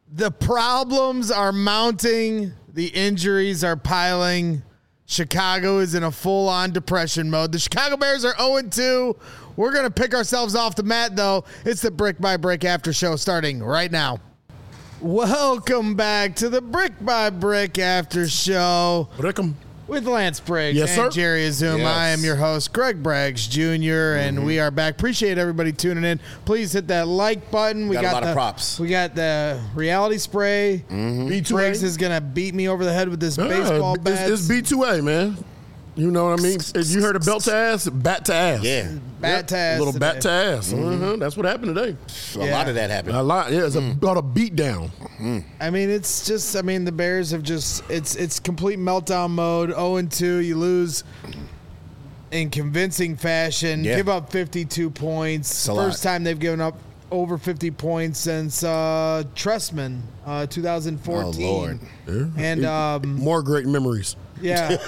The problems are mounting. The injuries are piling. Chicago is in a full-on depression mode. The Chicago Bears are 0-2. We're going to pick ourselves off the mat, though. It's the Brick by Brick After Show starting right now. Welcome back to the Brick by Brick After Show. With Lance Briggs and Jerry Azuma. Yes. I am your host, Greg Braggs Jr., and we are back. Appreciate everybody tuning in. Please hit that like button. We got a lot of props. We got the reality spray. B2A. Briggs is going to beat me over the head with this baseball bat. It's B2A, man. You know what I mean? You heard of belt to ass, bat to ass. Yeah. Bat to ass. A little bat to ass. That's what happened today. A lot of that happened. A lot. Yeah, it's about a beat down. I mean, it's just, the Bears have just, it's complete meltdown mode. 0-2, you lose in convincing fashion. Yeah. Give up 52 points. First time they've given up over 50 points since Trestman, 2014. Oh, Lord. Yeah. And more great memories. Yeah,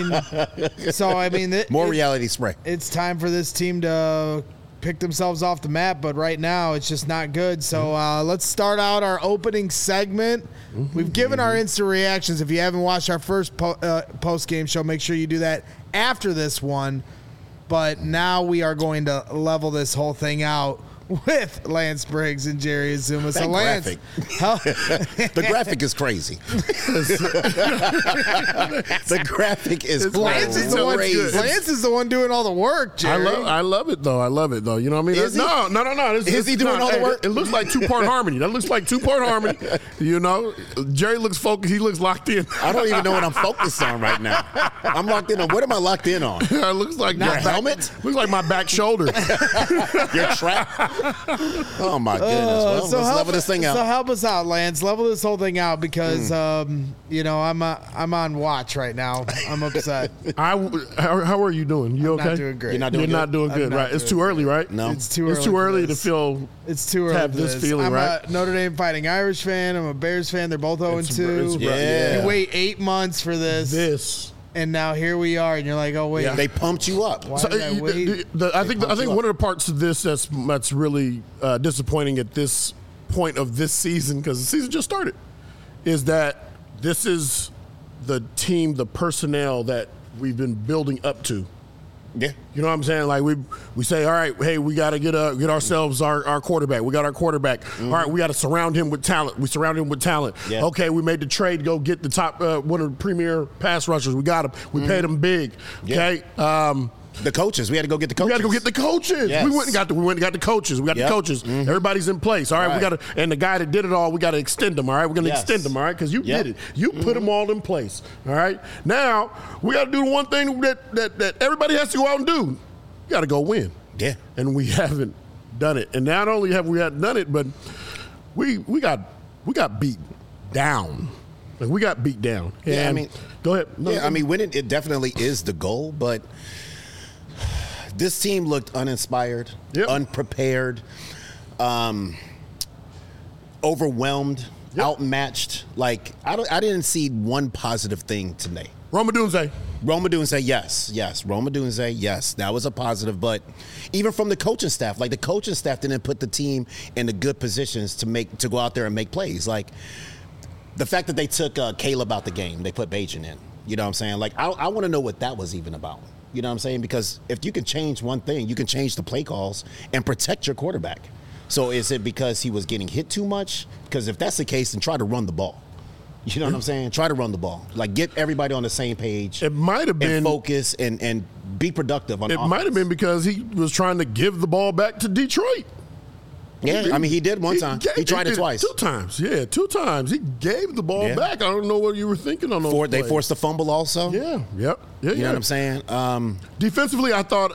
more reality spray. It's time for this team to pick themselves off the map, but right now it's just not good. So let's start out our opening segment. We've given our instant reactions. If you haven't watched our first post-game show, make sure you do that after this one. But now we are going to level this whole thing out with Lance Briggs and Jerry Azuma. So Lance, the graphic is crazy. The graphic is crazy. Lance is the one doing all the work, Jerry. I love it though. You know what I mean? Is he? No. Is he doing all the work? It looks like two-part harmony. That looks like two-part harmony. You know, Jerry looks focused. He looks locked in. I don't even know what I'm focused on right now. I'm locked in on. What am I locked in on? It looks like your helmet. Looks like my back shoulder. Your trap. Oh my goodness! Well, let's level this thing out. So help us out, Lance. Level this whole thing out because I'm on watch right now. I'm upset. How are you doing? You okay? I'm not doing great. You're not doing good, right? It's too early, right? No, it's too early. It's too early to feel. It's too early to have this feeling, right? I'm a Notre Dame Fighting Irish fan. I'm a Bears fan. They're both 0-2. Yeah. You wait 8 months for this. And now here we are, and you're like, oh wait, they pumped you up. Why did I wait? I think one of the parts of this that's really disappointing at this point of this season, because the season just started, is that this is the team, the personnel that we've been building up to. Yeah, you know what I'm saying? Like we say, all right, hey, we got to get ourselves our quarterback. We got our quarterback. All right, we got to surround him with talent. We surround him with talent. Yeah. Okay, we made the trade to go get the top one of the premier pass rushers. We got him. We paid him big. Okay. The coaches. We had to go get the coaches. We got to go get the coaches. Yes. We went and got the coaches. We got the coaches. Everybody's in place. All right, we got to, and the guy that did it all, we got to extend him. All right, we're going to extend him. All right, because you did it. You put them all in place. All right. Now we got to do the one thing that everybody has to go out and do. You got to go win. Yeah. And we haven't done it. And not only have we not done it, but we got beat down. Like, we got beat down. Yeah, and go ahead. No, winning, it definitely is the goal, but this team looked uninspired, unprepared, overwhelmed, outmatched. Like, I didn't see one positive thing today. Rome Odunze, yes. Rome Odunze, yes. That was a positive. But even from the coaching staff, like, the coaching staff didn't put the team in the good positions to go out there and make plays. Like, the fact that they took Caleb out the game, they put Bajan in. You know what I'm saying? Like, I want to know what that was even about. You know what I'm saying? Because if you can change one thing, you can change the play calls and protect your quarterback. So is it because he was getting hit too much? Because if that's the case, then try to run the ball. You know what I'm saying? Try to run the ball. Like, get everybody on the same page. It might have been. And focus and be productive on offense. It might have been because he was trying to give the ball back to Detroit. Yeah, he did one time. He tried it twice. 2 times. Yeah, 2 times. He gave the ball back. I don't know what you were thinking on those plays. They forced the fumble also? Yeah, yep. You know what I'm saying? Defensively, I thought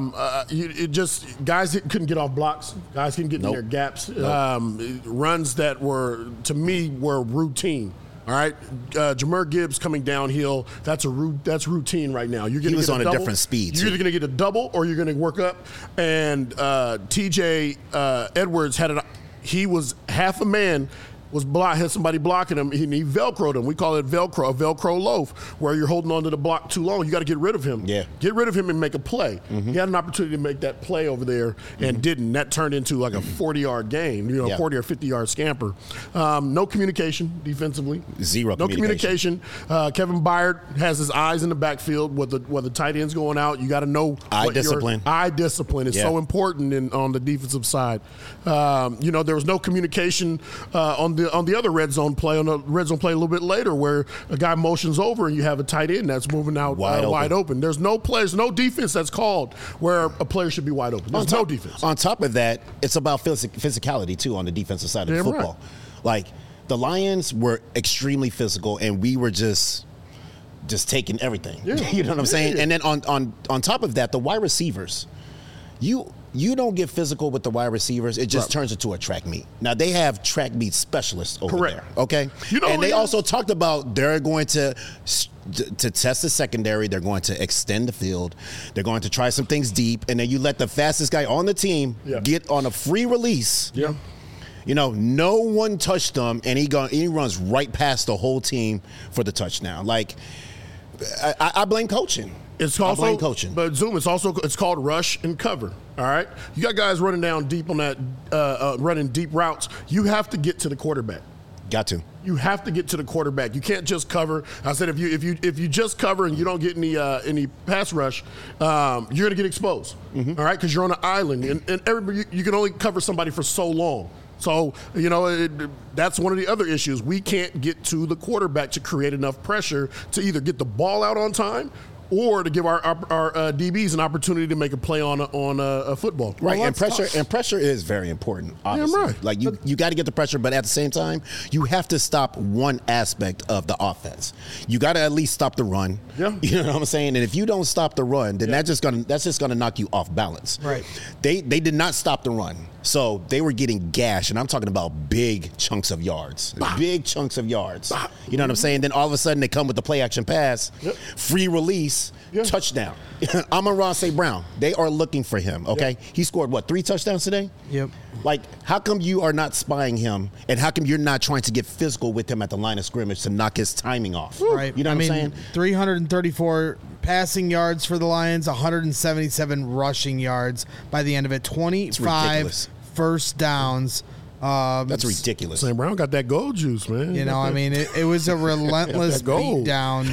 guys couldn't get off blocks. Guys couldn't get in their gaps. Runs that were, to me, were routine. All right, Jahmyr Gibbs coming downhill. That's routine right now. He was on a different speed. You're either going to get a double or you're going to work up. And T.J. Edwards had it. He was half a man had somebody blocking him, and he Velcroed him. We call it Velcro, a Velcro loaf, where you're holding onto the block too long. You got to get rid of him. Yeah. Get rid of him and make a play. He had an opportunity to make that play over there and didn't. That turned into like a 40-yard game, 40 or 50-yard scamper. No communication defensively. Zero No communication. Kevin Byard has his eyes in the backfield where the tight end's going out. You got to know eye discipline. Eye discipline is so important on the defensive side. There was no communication on the other red zone play a little bit later, where a guy motions over and you have a tight end that's moving out wide open. There's no defense that's called where a player should be wide open. There's no defense. On top of that, it's about physicality too on the defensive side of football. Right. Like the Lions were extremely physical, and we were just taking everything. Yeah. You know what I'm saying? And then on top of that, the wide receivers, you don't get physical with the wide receivers. It just turns into a track meet. Now, they have track meet specialists over there, okay? And they also talked about they're going to test the secondary. They're going to extend the field. They're going to try some things deep. And then you let the fastest guy on the team get on a free release. Yeah. No one touched him, and he runs right past the whole team for the touchdown. Like, I blame coaching. I blame coaching. But Zoom, it's called rush and cover. All right, you got guys running down deep on that, running deep routes. You have to get to the quarterback. Got to. You have to get to the quarterback. You can't just cover. I said if you just cover and you don't get any pass rush, you're gonna get exposed. All right, because you're on an island, and everybody you can only cover somebody for so long. So, that's one of the other issues. We can't get to the quarterback to create enough pressure to either get the ball out on time or to give our DBs an opportunity to make a play on a football. Right, and pressure is very important, obviously. Yeah, right. Like, you got to get the pressure, but at the same time, you have to stop one aspect of the offense. You got to at least stop the run. Yeah. You know what I'm saying? And if you don't stop the run, then that's just gonna knock you off balance. Right. They did not stop the run. So they were getting gashed, and I'm talking about big chunks of yards. Bah. Big chunks of yards. Bah. You know what I'm saying? Then all of a sudden they come with the play action pass, free release, touchdown. Amon-Ra St. Brown, they are looking for him, okay? He scored, 3 touchdowns today? Yep. Like, how come you are not spying him, and how come you're not trying to get physical with him at the line of scrimmage to knock his timing off? Right. You know what I'm saying? 334 passing yards for the Lions, 177 rushing yards by the end of it, 25 first downs. That's ridiculous. St. Brown got that gold juice, man. It was a relentless beat down,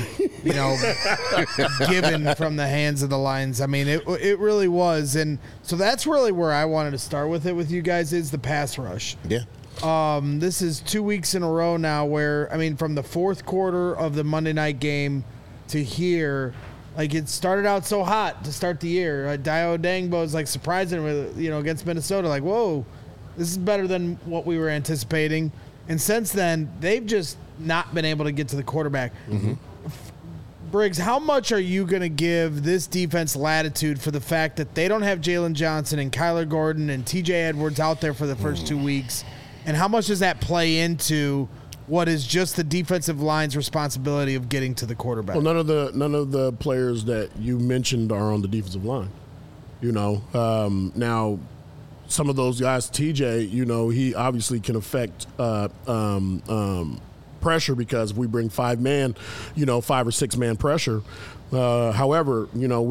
given from the hands of the Lions. I mean, it really was. And so that's really where I wanted to start with it with you guys is the pass rush. Yeah. This is 2 weeks in a row now where, from the fourth quarter of the Monday night game to here, like, it started out so hot to start the year. Dio Dangbo is, surprising with, against Minnesota. Like, whoa, this is better than what we were anticipating. And since then, they've just not been able to get to the quarterback. Mm-hmm. Briggs, how much are you going to give this defense latitude for the fact that they don't have Jalen Johnson and Kyler Gordon and TJ Edwards out there for the first 2 weeks? And how much does that play into what is just the defensive line's responsibility of getting to the quarterback? Well, none of the players that you mentioned are on the defensive line. Now some of those guys, TJ, he obviously can affect pressure because if we bring 5 or 6 man pressure. However,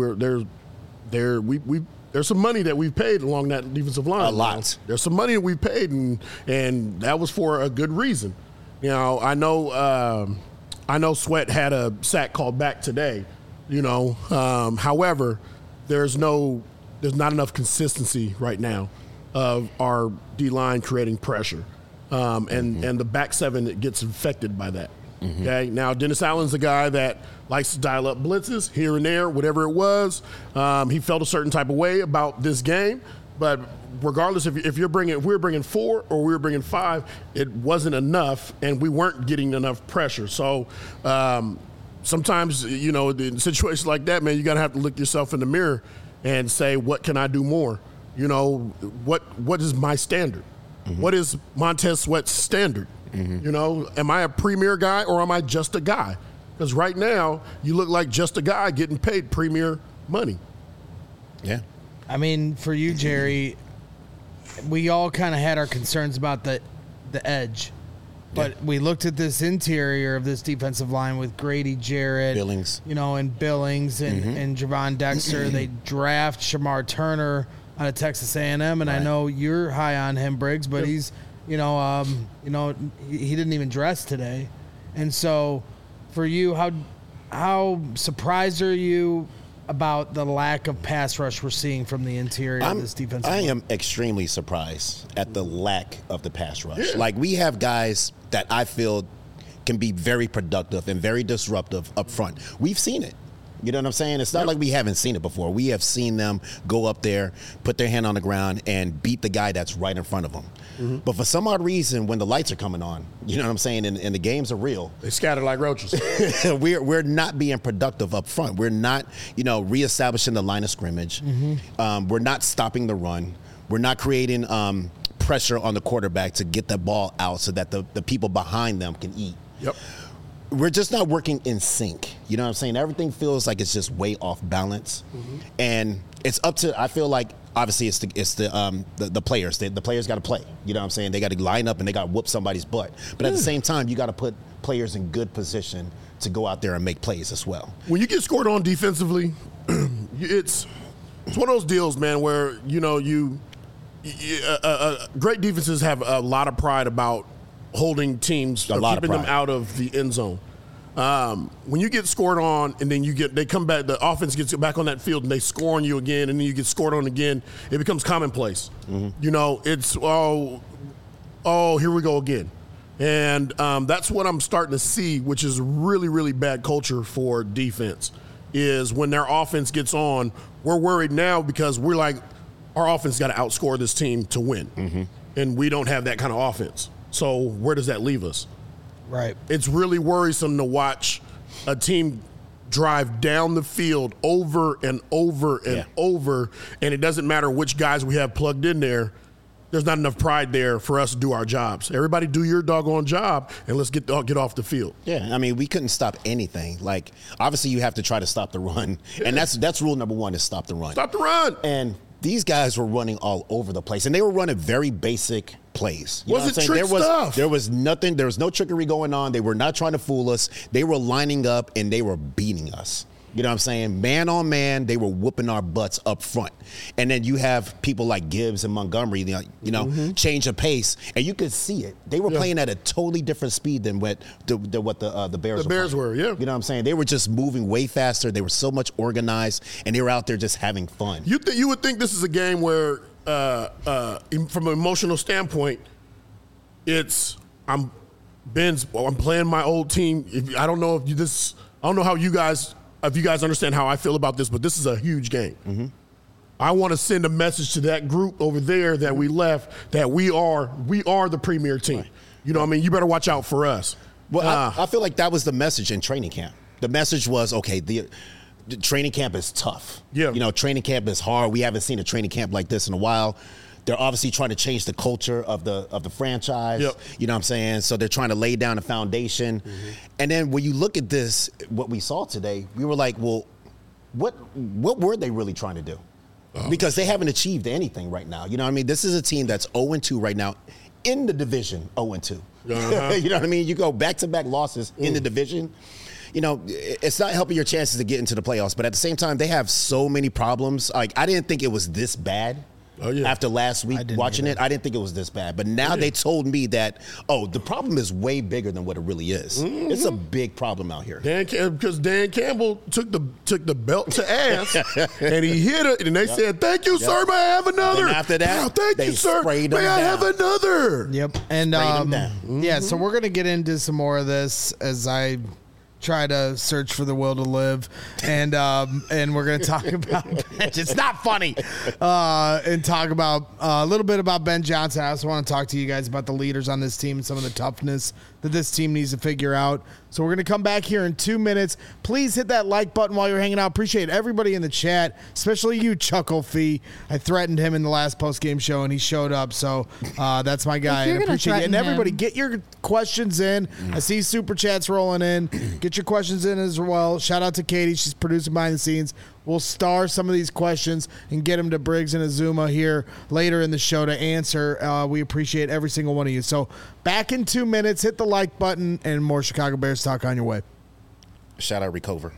there's some money that we've paid along that defensive line. A lot. There's some money that we've paid, and that was for a good reason. I know Sweat had a sack called back today. However, there's not enough consistency right now of our D-line creating pressure. And the back 7 gets infected by that. Mm-hmm. Okay. Now, Dennis Allen's a guy that likes to dial up blitzes here and there, whatever it was. He felt a certain type of way about this game. But regardless, if we're bringing 4 or we were bringing 5, it wasn't enough, and we weren't getting enough pressure. So sometimes, in situations like that, man, you got to have to look yourself in the mirror and say, what can I do more? What is my standard? Mm-hmm. What is Montez Sweat's standard? Mm-hmm. Am I a premier guy or am I just a guy? Because right now, you look like just a guy getting paid premier money. Yeah. For you, Jerry, we all kind of had our concerns about the edge. But we looked at this interior of this defensive line with Grady Jarrett, Billings. and Billings and Javon Dexter. They draft Shamar Turner out of Texas A&M, and I know you're high on him, Briggs, but he's, he didn't even dress today. And so for you, how surprised are you about the lack of pass rush we're seeing from the interior of this defensive line? I am extremely surprised at the lack of the pass rush. Yeah. Like, we have guys that I feel can be very productive and very disruptive up front. We've seen it. You know what I'm saying? It's not like we haven't seen it before. We have seen them go up there, put their hand on the ground, and beat the guy that's right in front of them. Mm-hmm. But for some odd reason, when the lights are coming on, you know what I'm saying, and the games are real, they scatter like roaches. we're not being productive up front. We're not, reestablishing the line of scrimmage. Mm-hmm. We're not stopping the run. We're not creating pressure on the quarterback to get the ball out so that the people behind them can eat. Yep. We're just not working in sync. You know what I'm saying? Everything feels like it's just way off balance. Mm-hmm. And it's up to, I feel like, obviously it's the players. The players got to play. You know what I'm saying? They got to line up and they got to whoop somebody's butt. But at the same time, you got to put players in good position to go out there and make plays as well. When you get scored on defensively, it's one of those deals, man, where, great defenses have a lot of pride about holding teams, keeping them out of the end zone. When you get scored on and then they come back, the offense gets back on that field and they score on you again, and then you get scored on again, it becomes commonplace. Mm-hmm. It's, here we go again. And that's what I'm starting to see, which is really, really bad culture for defense, is when their offense gets on, we're worried now because we're like, our offense got to outscore this team to win. Mm-hmm. And we don't have that kind of offense. So where does that leave us? Right. It's really worrisome to watch a team drive down the field over and over and over, and it doesn't matter which guys we have plugged in there. There's not enough pride there for us to do our jobs. Everybody do your doggone job, and let's get off the field. Yeah, I mean, we couldn't stop anything. Like, obviously you have to try to stop the run, and that's rule number one, is stop the run. Stop the run. And these guys were running all over the place, and they were running very basic plays. Was it trick stuff? There was nothing. There was no trickery going on. They were not trying to fool us. They were lining up, and they were beating us. You know what I'm saying? Man on man, they were whooping our butts up front. And then you have people like Gibbs and Montgomery, change of pace, and you could see it. They were playing at a totally different speed than what the Bears were. Yeah. You know what I'm saying? They were just moving way faster. They were so much organized, and they were out there just having fun. You would think this is a game where, from an emotional standpoint, I'm playing my old team. I don't know how you guys. If you guys understand how I feel about this, but this is a huge game. Mm-hmm. I want to send a message to that group over there that we left, that we are the premier team. Right. You know what I mean? You better watch out for us. Well, I feel like that was the message in training camp. The message was, okay, the training camp is tough. Yeah. Training camp is hard. We haven't seen a training camp like this in a while. They're obviously trying to change the culture of the franchise. Yep. You know what I'm saying? So they're trying to lay down a foundation. Mm-hmm. And then when you look at this, what we saw today, we were like, well, what were they really trying to do? Oh. Because they haven't achieved anything right now. You know what I mean? This is a team that's 0-2 right now in the division, 0-2. Uh-huh. You know what I mean? You go back-to-back losses in the division. It's not helping your chances to get into the playoffs. But at the same time, they have so many problems. Like, I didn't think it was this bad. Oh, yeah. After last week watching it, I didn't think it was this bad. But now they told me that, the problem is way bigger than what it really is. Mm-hmm. It's a big problem out here. Because Dan Campbell took the belt to ass, and he hit it, and they said, "Thank you, sir. May I have another?" And after that, thank you, sir. May I have another? Yep. And so we're gonna get into some more of this as I try to search for the will to live, and we're going to talk about it's not funny, and talk about a little bit about Ben Johnson. I also want to talk to you guys about the leaders on this team and some of the toughness that this team needs to figure out. So we're going to come back here in 2 minutes. Please hit that like button while you're hanging out. Appreciate everybody in the chat, especially you, Chuckle Fee. I threatened him in the last post-game show, and he showed up. So that's my guy. I appreciate it. And everybody, get your questions in. I see super chats rolling in. Get your questions in as well. Shout out to Katie. She's producing behind the scenes. We'll star some of these questions and get them to Briggs and Azuma here later in the show to answer. We appreciate every single one of you. So back in 2 minutes, hit the like button, and more Chicago Bears talk on your way. Shout out Recover.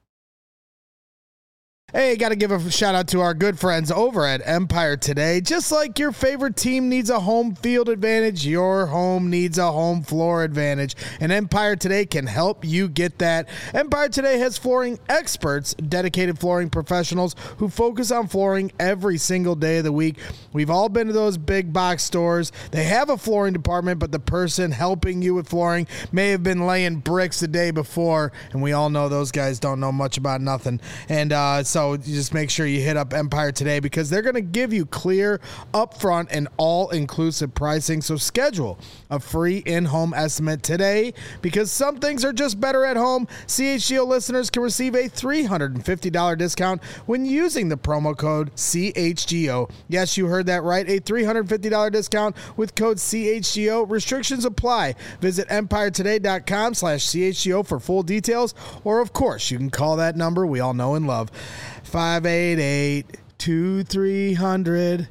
Hey, got to give a shout out to our good friends over at Empire Today. Just like your favorite team needs a home field advantage, your home needs a home floor advantage. And Empire Today can help you get that. Empire Today has flooring experts, dedicated flooring professionals who focus on flooring every single day of the week. We've all been to those big box stores. They have a flooring department, but the person helping you with flooring may have been laying bricks the day before. And we all know those guys don't know much about nothing. And so you just make sure you hit up Empire Today because they're going to give you clear, upfront, and all-inclusive pricing. So schedule a free in-home estimate today because some things are just better at home. CHGO listeners can receive a $350 discount when using the promo code CHGO. Yes, you heard that right. A $350 discount with code CHGO. Restrictions apply. Visit EmpireToday.com/CHGO for full details. Or, of course, you can call that number we all know and love. 588-2300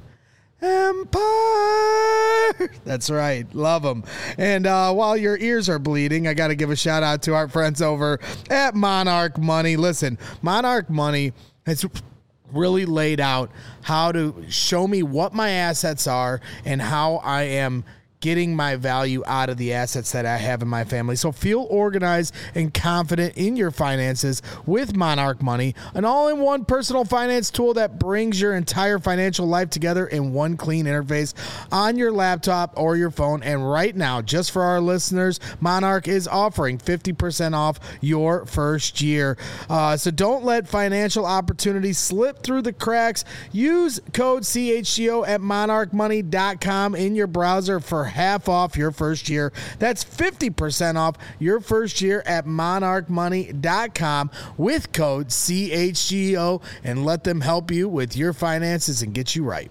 Empire. That's right. Love them. And while your ears are bleeding, I got to give a shout out to our friends over at Monarch Money. Listen, Monarch Money has really laid out how to show me what my assets are and how I am getting my value out of the assets that I have in my family. So feel organized and confident in your finances with Monarch Money, an all-in-one personal finance tool that brings your entire financial life together in one clean interface on your laptop or your phone. And right now, just for our listeners, Monarch is offering 50% off your first year. So don't let financial opportunities slip through the cracks. Use code CHGO at monarchmoney.com in your browser for half off your first year. That's 50% off your first year at monarchmoney.com with code CHGO, and let them help you with your finances and get you right.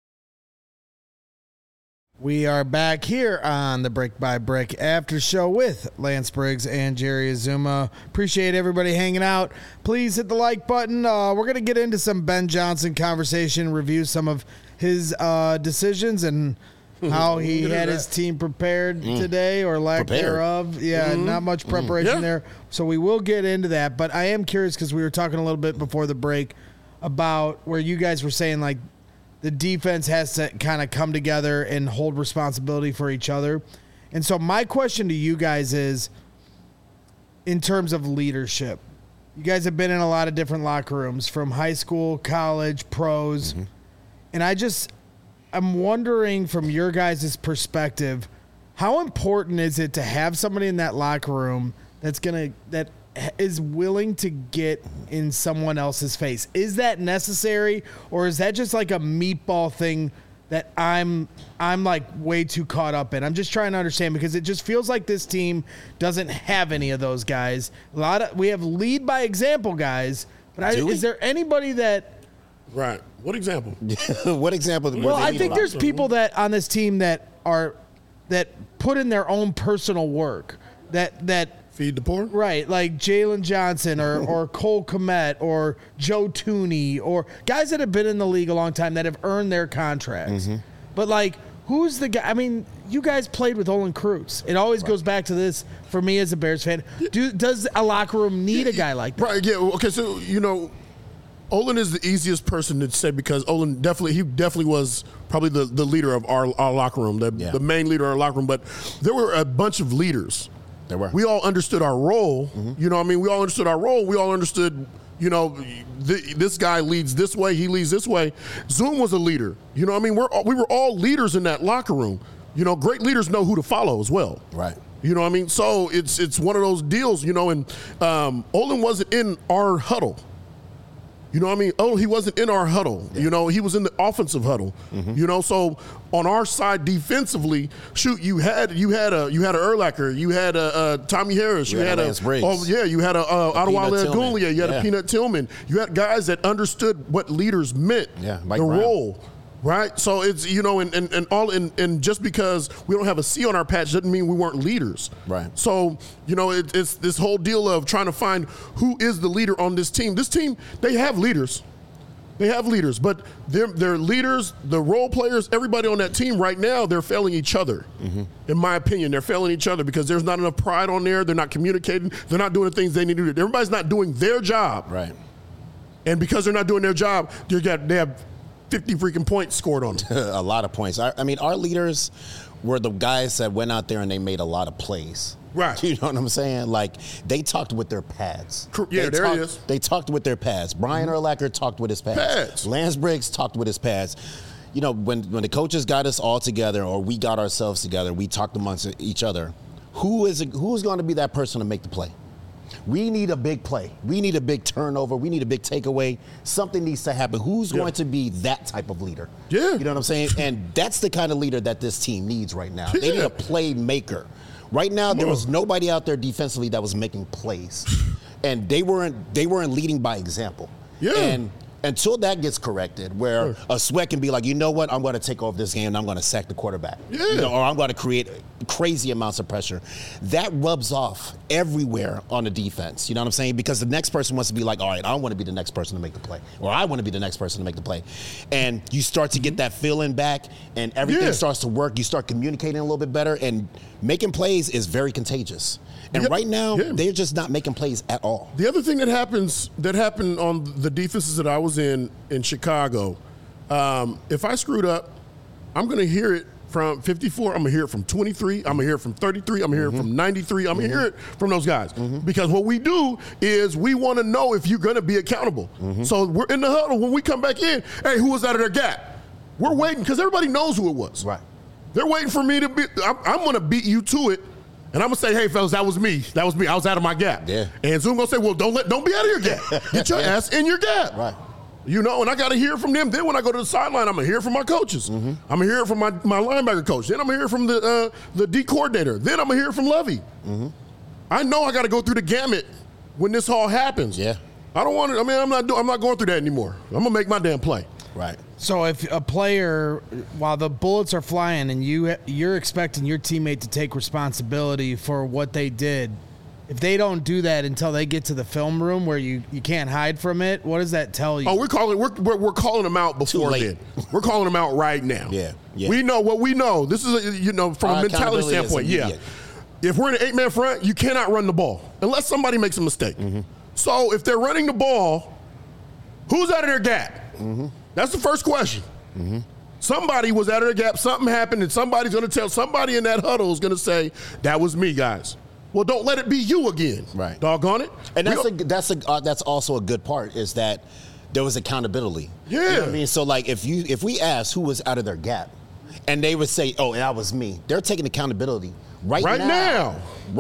We are back here on the Brick by Brick After Show with Lance Briggs and Jerry Azuma. Appreciate everybody hanging out. Please hit the like button. We're going to get into some Ben Johnson conversation, review some of his decisions and how he had his team prepared today or lack thereof. Yeah, not much preparation there. So we will get into that. But I am curious because we were talking a little bit before the break about where you guys were saying like the defense has to kind of come together and hold responsibility for each other. And so my question to you guys is, in terms of leadership, you guys have been in a lot of different locker rooms from high school, college, pros. And I'm wondering from your guys' perspective, how important is it to have somebody in that locker room that is willing to get in someone else's face? Is that necessary, or is that just like a meatball thing that I'm like way too caught up in? I'm just trying to understand because it just feels like this team doesn't have any of those guys. We have lead by example guys, but is there anybody that? Right. What example? What example? Well, I think there's people that on this team that put in their own personal work that feed the poor, right? Like Jalen Johnson or Cole Kmet or Joe Tooney or guys that have been in the league a long time that have earned their contracts. But like, who's the guy? I mean, you guys played with Olin Krutz. It always goes back to this for me as a Bears fan. Does a locker room need a guy like that? Right. Yeah. Okay. So Olin is the easiest person to say because Olin definitely was probably the leader of our locker room, the main leader of our locker room. But there were a bunch of leaders. There were. We all understood our role. You know what I mean? We all understood our role. We all understood, this guy leads this way, he leads this way. Zoom was a leader. You know what I mean? We were all leaders in that locker room. Great leaders know who to follow as well. Right. You know what I mean? So it's one of those deals, and Olin wasn't in our huddle. You know what I mean? Oh, he wasn't in our huddle. Yeah. He was in the offensive huddle. So on our side defensively, you had a Urlacher, you had a Tommy Harris, you had Lance Briggs. You had a Adewale Agunleye, you had a Peanut Tillman. You had guys that understood what leaders meant, the role. Right, so it's and just because we don't have a C on our patch doesn't mean we weren't leaders. Right. So it's this whole deal of trying to find who is the leader on this team. This team, they have leaders. They have leaders, but their leaders, the role players, everybody on that team right now, they're failing each other. Mm-hmm. In my opinion, they're failing each other because there's not enough pride on there. They're not communicating. They're not doing the things they need to do. Everybody's not doing their job. Right. And because they're not doing their job, they have 50 freaking points scored on them. A lot of points. I mean, our leaders were the guys that went out there and they made a lot of plays. Right. You know what I'm saying? Like, they talked with their pads. Yeah, there it is. They talked with their pads. Brian Urlacher talked with his pads. Lance Briggs talked with his pads. You know, when the coaches got us all together or we got ourselves together, we talked amongst each other. Who's going to be that person to make the play? We need a big play. We need a big turnover. We need a big takeaway. Something needs to happen. Who's going to be that type of leader? Yeah. You know what I'm saying? And that's the kind of leader that this team needs right now. They need a playmaker. Right now, there was nobody out there defensively that was making plays. And they weren't leading by example. Yeah. And until that gets corrected, where a Sweat can be like, you know what, I'm going to take over this game and I'm going to sack the quarterback. Yeah. Or I'm going to create crazy amounts of pressure. That rubs off everywhere on the defense. You know what I'm saying? Because the next person wants to be like, all right, I want to be the next person to make the play. Or I want to be the next person to make the play. And you start to get that feeling back and everything starts to work. You start communicating a little bit better. And making plays is very contagious. And right now, they're just not making plays at all. The other thing that happened on the defenses that I was in Chicago, if I screwed up, I'm going to hear it from 54. I'm going to hear it from 23. I'm going to hear it from 33. I'm going to hear it from 93. I'm going to hear it from those guys. Because what we do is we want to know if you're going to be accountable. So we're in the huddle. When we come back in, hey, who was out of their gap? We're waiting because everybody knows who it was. Right. They're waiting for me to be – I'm going to beat you to it. And I'm going to say, hey, fellas, that was me. That was me. I was out of my gap. Yeah. And Zoom going to say, well, don't be out of your gap. Get your ass in your gap. Right. You know, and I got to hear from them. Then when I go to the sideline, I'm going to hear from my coaches. I'm going to hear from my linebacker coach. Then I'm going to hear from the D coordinator. Then I'm going to hear from Lovey. I know I got to go through the gamut when this all happens. Yeah. I don't want to. I mean, I'm not going through that anymore. I'm going to make my damn play. Right. So if a player, while the bullets are flying and you're expecting your teammate to take responsibility for what they did, if they don't do that until they get to the film room where you can't hide from it, what does that tell you? Oh, we're calling them out before then. We're calling them out right now. Yeah. We know what we know. This is from a mentality standpoint. Yeah. If we're in an 8-man front, you cannot run the ball unless somebody makes a mistake. So if they're running the ball, who's out of their gap? That's the first question. Somebody was out of their gap, something happened, and somebody's going to tell somebody in that huddle is going to say, that was me, guys. Well, don't let it be you again. Right. Doggone it. And that's also a good part is that there was accountability. Yeah. You know what I mean? So, like, if we asked who was out of their gap, and they would say, oh, that was me, they're taking accountability right now.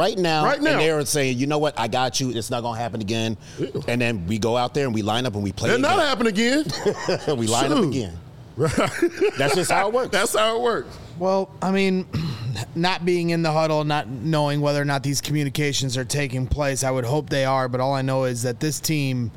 And they're saying, you know what, I got you. It's not going to happen again. And then we go out there and we line up and we play again. It'll not happen again. We line up again. Right. That's just how it works. That's how it works. Well, I mean, not being in the huddle, not knowing whether or not these communications are taking place, I would hope they are. But all I know is that this team,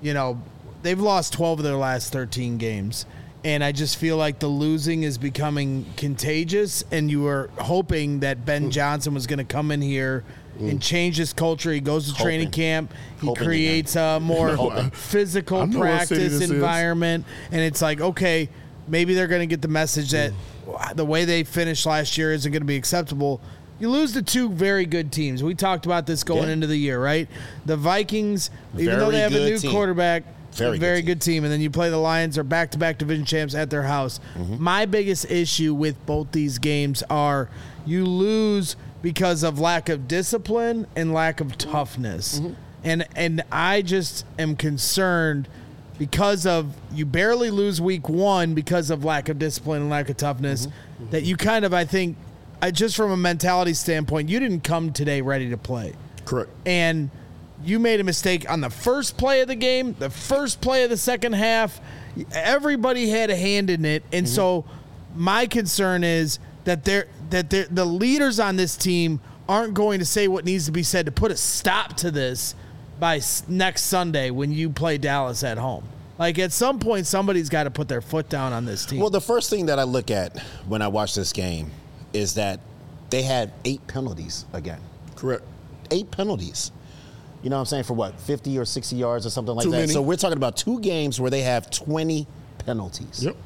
they've lost 12 of their last 13 games. And I just feel like the losing is becoming contagious, and you were hoping that Ben Johnson was going to come in here and change his culture. He goes to training camp. He creates a more physical practice environment. And it's like, okay, maybe they're going to get the message that the way they finished last year isn't going to be acceptable. You lose to two very good teams. We talked about this going into the year, right? The Vikings, even though they have a new quarterback, very good team. And then you play the Lions, are back-to-back division champs at their house. My biggest issue with both these games are you lose because of lack of discipline and lack of toughness. And I just am concerned because of you barely lose week one because of lack of discipline and lack of toughness that you kind of, I think, just from a mentality standpoint, you didn't come today ready to play. Correct. And you made a mistake on the first play of the game, the first play of the second half. Everybody had a hand in it. And so my concern is that the leaders on this team aren't going to say what needs to be said to put a stop to this by next Sunday when you play Dallas at home. Like, at some point, somebody's got to put their foot down on this team. Well, the first thing that I look at when I watch this game is that they had 8 penalties again. Correct. 8 penalties. You know what I'm saying? For what, 50 or 60 yards or something like Too that? many. So we're talking about 2 games where they have 20 penalties. Yep.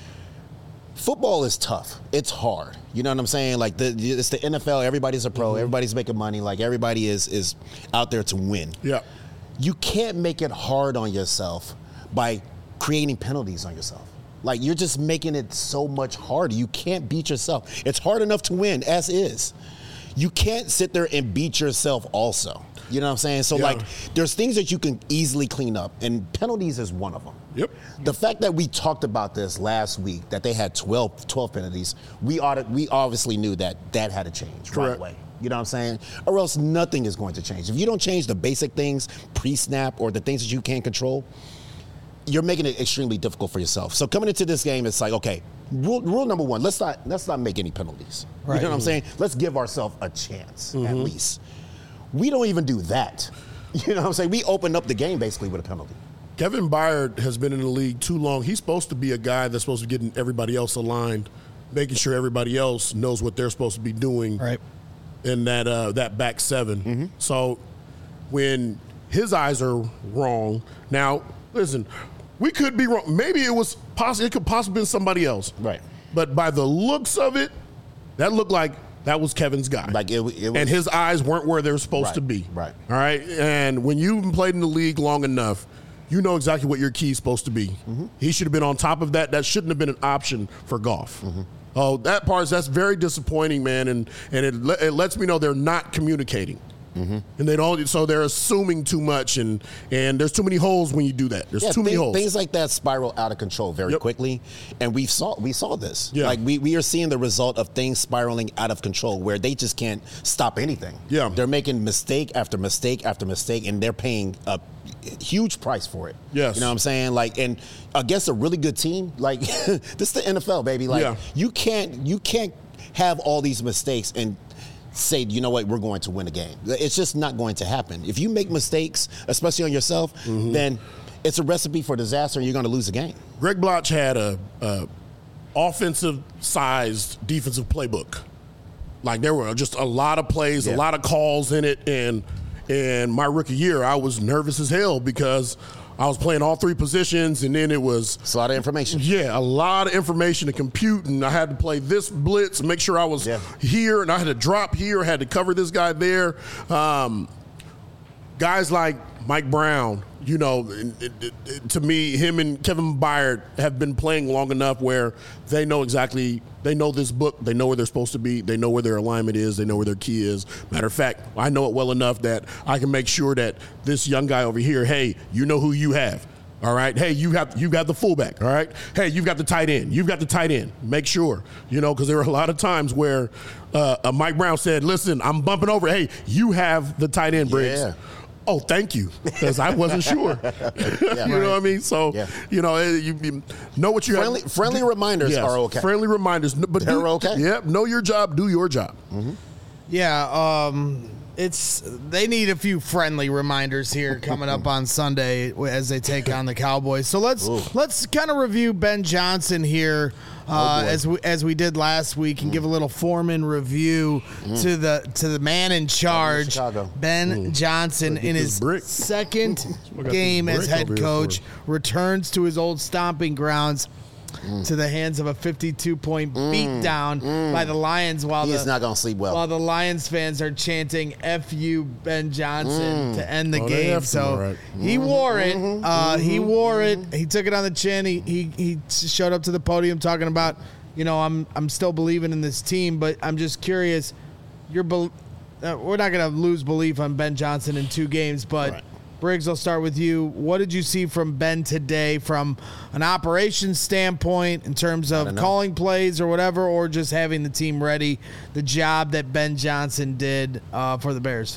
Football is tough. It's hard. You know what I'm saying? Like, it's the NFL. Everybody's a pro. Everybody's making money. Like, everybody is out there to win. Yeah. You can't make it hard on yourself by creating penalties on yourself. Like, you're just making it so much harder. You can't beat yourself. It's hard enough to win, as is. You can't sit there and beat yourself also. You know what I'm saying? So, like, there's things that you can easily clean up, and penalties is one of them. Yep. The fact that we talked about this last week, that they had 12 penalties, we obviously knew that had to change right away. You know what I'm saying? Or else nothing is going to change. If you don't change the basic things, pre-snap, or the things that you can't control, you're making it extremely difficult for yourself. So coming into this game, it's like, okay, rule number 1, let's not make any penalties. Right. You know what I'm saying? Let's give ourselves a chance, at least. We don't even do that. You know what I'm saying? We opened up the game basically with a penalty. Kevin Byard has been in the league too long. He's supposed to be a guy that's supposed to be getting everybody else aligned, making sure everybody else knows what they're supposed to be doing in that back 7. So when his eyes are wrong, now, listen, we could be wrong. Maybe it could possibly been somebody else. Right. But by the looks of it, that looked like that was Kevin's guy. Like it was, and his eyes weren't where they were supposed to be. Right. All right. And when you've played in the league long enough, you know exactly what your key is supposed to be. He should have been on top of that. That shouldn't have been an option for Goff. Oh, that's very disappointing, man. And it lets me know they're not communicating. And they don't, so they're assuming too much, and there's too many holes when you do that. There's too many holes. Things like that spiral out of control very quickly, and we saw this. Yeah. Like we are seeing the result of things spiraling out of control, where they just can't stop anything. Yeah, they're making mistake after mistake after mistake, and they're paying a huge price for it. Yes, you know what I'm saying? Like, and against a really good team, like this is the NFL, baby. Like you can't have all these mistakes and say, you know what, we're going to win a game. It's just not going to happen. If you make mistakes, especially on yourself, then it's a recipe for disaster, and you're going to lose a game. Greg Bloch had a offensive-sized defensive playbook. Like, there were just a lot of plays, a lot of calls in it, and my rookie year, I was nervous as hell because I was playing all 3 positions, and then it was... It's a lot of information. Yeah, a lot of information to compute, and I had to play this blitz and make sure I was here, and I had to drop here, I had to cover this guy there. Guys like Mike Brown, you know, to me, him and Kevin Byard have been playing long enough where they know this book, they know where they're supposed to be, they know where their alignment is, they know where their key is. Matter of fact, I know it well enough that I can make sure that this young guy over here, hey, you know who you have. All right. Hey, you got the fullback. All right. Hey, you've got the tight end. You've got the tight end. Make sure, you know, because there were a lot of times where Mike Brown said, listen, I'm bumping over. Hey, you have the tight end, Briggs. Yeah. Oh, thank you, because I wasn't sure. You know what I mean? So, you know, you know what you have. Friendly reminders are okay. Friendly reminders. But they're okay. Yep. Know your job. Do your job. Yeah. They need a few friendly reminders here coming up on Sunday as they take on the Cowboys. So let's kind of review Ben Johnson here as we did last week and give a little Foreman review to the man in charge, Ben Johnson, in his second game as head coach, returns to his old stomping grounds. To the hands of a 52-point beatdown by the Lions, while he's not going to sleep well. While the Lions fans are chanting "F you, Ben Johnson" to end the game. So he wore it. He wore it. He took it on the chin. He showed up to the podium talking about, you know, I'm still believing in this team, but I'm just curious. We're not going to lose belief on Ben Johnson in 2 games, but. Briggs, I'll start with you. What did you see from Ben today from an operations standpoint in terms of calling plays or whatever, or just having the team ready, the job that Ben Johnson did for the Bears?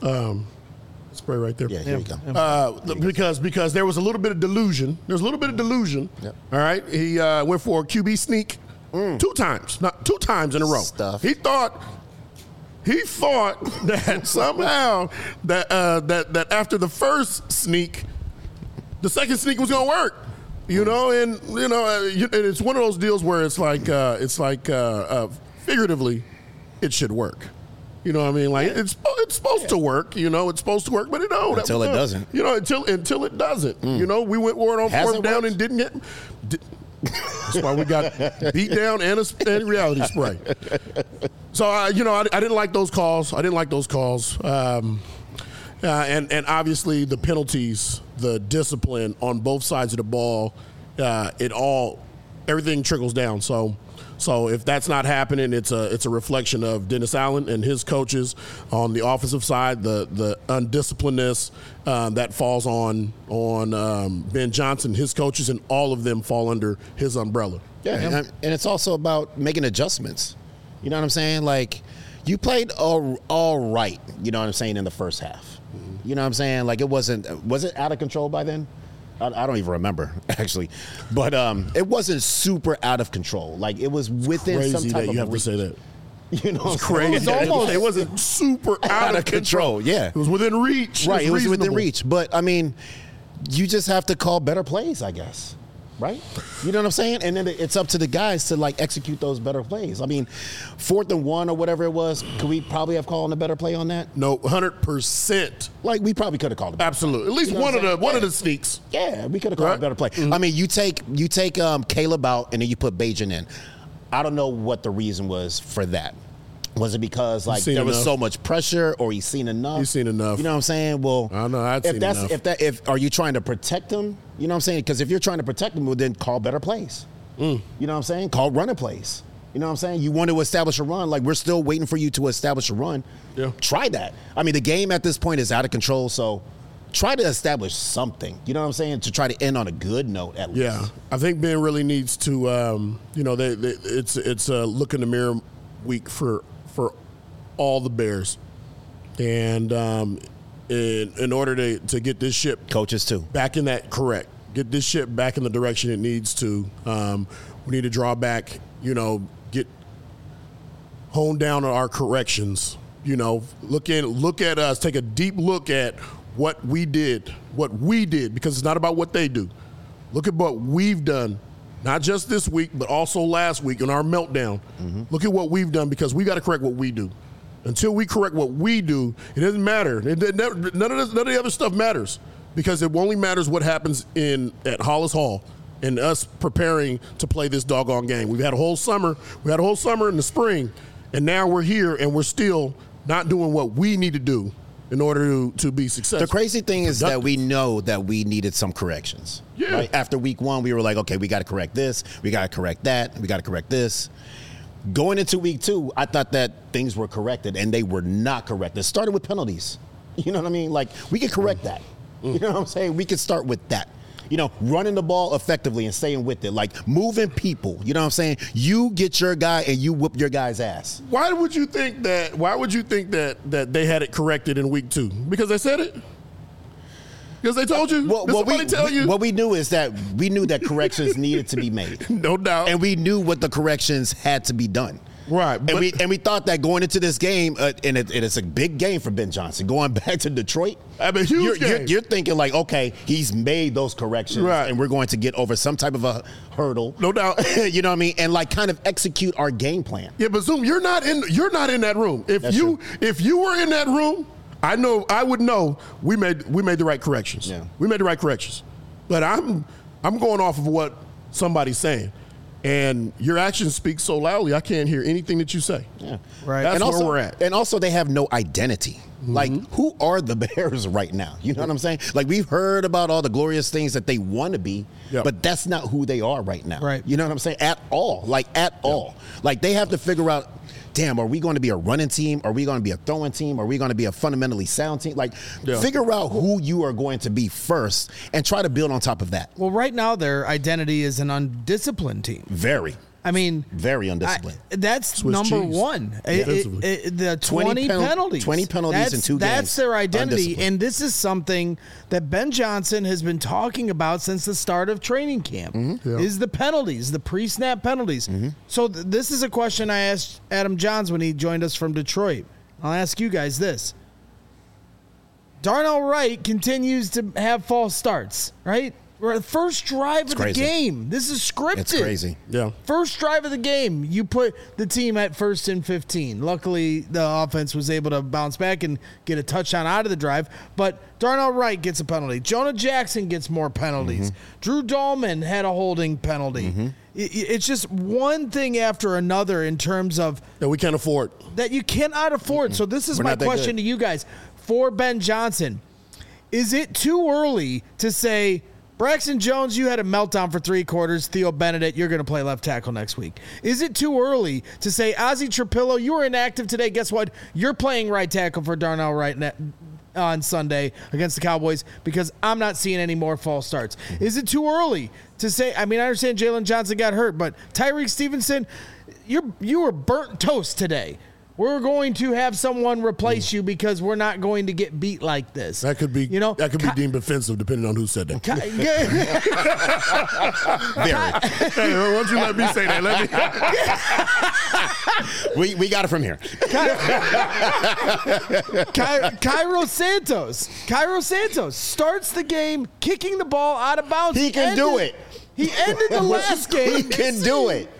Spray right there. Yeah, here you go. Because there was a little bit of delusion. There's a little bit of delusion. Yep. All right. He went for a QB sneak 2 times, not 2 times in a row. He thought that somehow that after the first sneak, the second sneak was going to work. You know, and it's one of those deals where it's like figuratively, it should work. You know what I mean? Like it's supposed to work. You know, it's supposed to work, but it don't. Until it doesn't. You know, until it doesn't. You know, we went word on fourth down and didn't get. That's why we got beat down and reality spray. So I didn't like those calls. And obviously the penalties, the discipline on both sides of the ball, everything trickles down. So if that's not happening, it's a reflection of Dennis Allen and his coaches on the offensive side, the undisciplinedness that falls on Ben Johnson, his coaches, and all of them fall under his umbrella. Yeah, and it's also about making adjustments. You know what I'm saying? Like, you played all right, you know what I'm saying, in the first half. You know what I'm saying? Like, was it out of control by then? I don't even remember, actually. But it wasn't super out of control. Like, it was within crazy some type that of you have reach. to say that. You know, it's crazy. It wasn't super out of control. Yeah. It was within reach. Right, it was within reach. But, I mean, you just have to call better plays, I guess. Right? You know what I'm saying? And then it's up to the guys to, like, execute those better plays. I mean, 4th and 1 or whatever it was, could we probably have called a better play on that? No, 100%. Like, we probably could have called it. Absolutely. At least one of the sneaks. Yeah, we could have called a better play. Mm-hmm. I mean, you take Caleb out and then you put Bajan in. I don't know what the reason was for that. Was it because there was so much pressure, or he's seen enough? He's seen enough. You know what I'm saying? Well, I know. If are you trying to protect him? You know what I'm saying? Because if you're trying to protect him, well, then call better plays. You know what I'm saying? Call running plays. You know what I'm saying? You want to establish a run. Like, we're still waiting for you to establish a run. Yeah. Try that. I mean, the game at this point is out of control, so try to establish something. You know what I'm saying? To try to end on a good note, at least. Yeah, I think Ben really needs to. It's a look in the mirror week for all the Bears, and in order to get this ship, coaches too, back in that get this ship back in the direction it needs to. We need to draw back, get honed down on our corrections. Look at us, take a deep look at what we did, because it's not about what they do. Look at what we've done. Not just this week, but also last week in our meltdown. Mm-hmm. Look at what we've done, because we got to correct what we do. Until we correct what we do, it doesn't matter. None of the other stuff matters, because it only matters what happens at Hollis Hall and us preparing to play this doggone game. We've had a whole summer. We had a whole summer in the spring, and now we're here and we're still not doing what we need to do in order to be successful. The crazy thing is that we know that we needed some corrections. Yeah. Right? After week 1, we were like, okay, we got to correct this, we got to correct that, we got to correct this. Going into week 2, I thought that things were corrected, and they were not corrected. It started with penalties. You know what I mean? Like, we could correct that. You know what I'm saying? We could start with that. Running the ball effectively and staying with it. Like, moving people. You know what I'm saying? You get your guy and you whoop your guy's ass. Why would you think that they had it corrected in week 2? Because they said it? Because they told you? What we knew is that we knew that corrections needed to be made. No doubt. And we knew what the corrections had to be done. Right. And we thought that going into this game, and it's a big game for Ben Johnson, going back to Detroit. I mean, huge game. You're thinking like, okay, he's made those corrections, right, and we're going to get over some type of a hurdle. No doubt. You know what I mean? And like kind of execute our game plan. Yeah, but Zoom, you're not in that room. If you were in that room, I would know we made the right corrections. Yeah. We made the right corrections. But I'm going off of what somebody's saying. And your actions speak so loudly, I can't hear anything that you say. Yeah. Right. That's where we're at. And also, they have no identity. Mm-hmm. Like, who are the Bears right now? You know what I'm saying? Like, we've heard about all the glorious things that they want to be, but that's not who they are right now. Right. You know what I'm saying? At all. Like, at all. Like, they have to figure out, damn, are we going to be a running team? Are we going to be a throwing team? Are we going to be a fundamentally sound team? Like, figure out who you are going to be first and try to build on top of that. Well, right now, their identity is an undisciplined team. Very. I mean, very undisciplined. That's Swiss number cheese. one. The 20 penalties. 20 penalties in 2 games. That's their identity. And this is something that Ben Johnson has been talking about since the start of training camp, is the penalties, the pre-snap penalties. Mm-hmm. So this is a question I asked Adam Johns when he joined us from Detroit. I'll ask you guys this. Darnell Wright continues to have false starts, right? First drive of the game. This is scripted. It's crazy. Yeah. First drive of the game, you put the team at 1st and 15. Luckily, the offense was able to bounce back and get a touchdown out of the drive. But Darnell Wright gets a penalty. Jonah Jackson gets more penalties. Drew Dahlman had a holding penalty. It's just one thing after another in terms of that we can't afford. That you cannot afford. So this is my question to you guys. For Ben Johnson, is it too early to say, Braxton Jones, you had a meltdown for 3 quarters. Theo Benedict, you're going to play left tackle next week. Is it too early to say, Ozzie Trapillo, you were inactive today. Guess what? You're playing right tackle for Darnell Wright on Sunday against the Cowboys because I'm not seeing any more false starts. Is it too early to say, I mean, I understand Jalen Johnson got hurt, but Tyreek Stevenson, you were burnt toast today. We're going to have someone replace you because we're not going to get beat like this. That could be, that could be deemed offensive depending on who said that. Very. Hey, why don't you let me say that? We got it from here. Cairo Santos starts the game kicking the ball out of bounds. He can do it. He ended the last game. He can do it.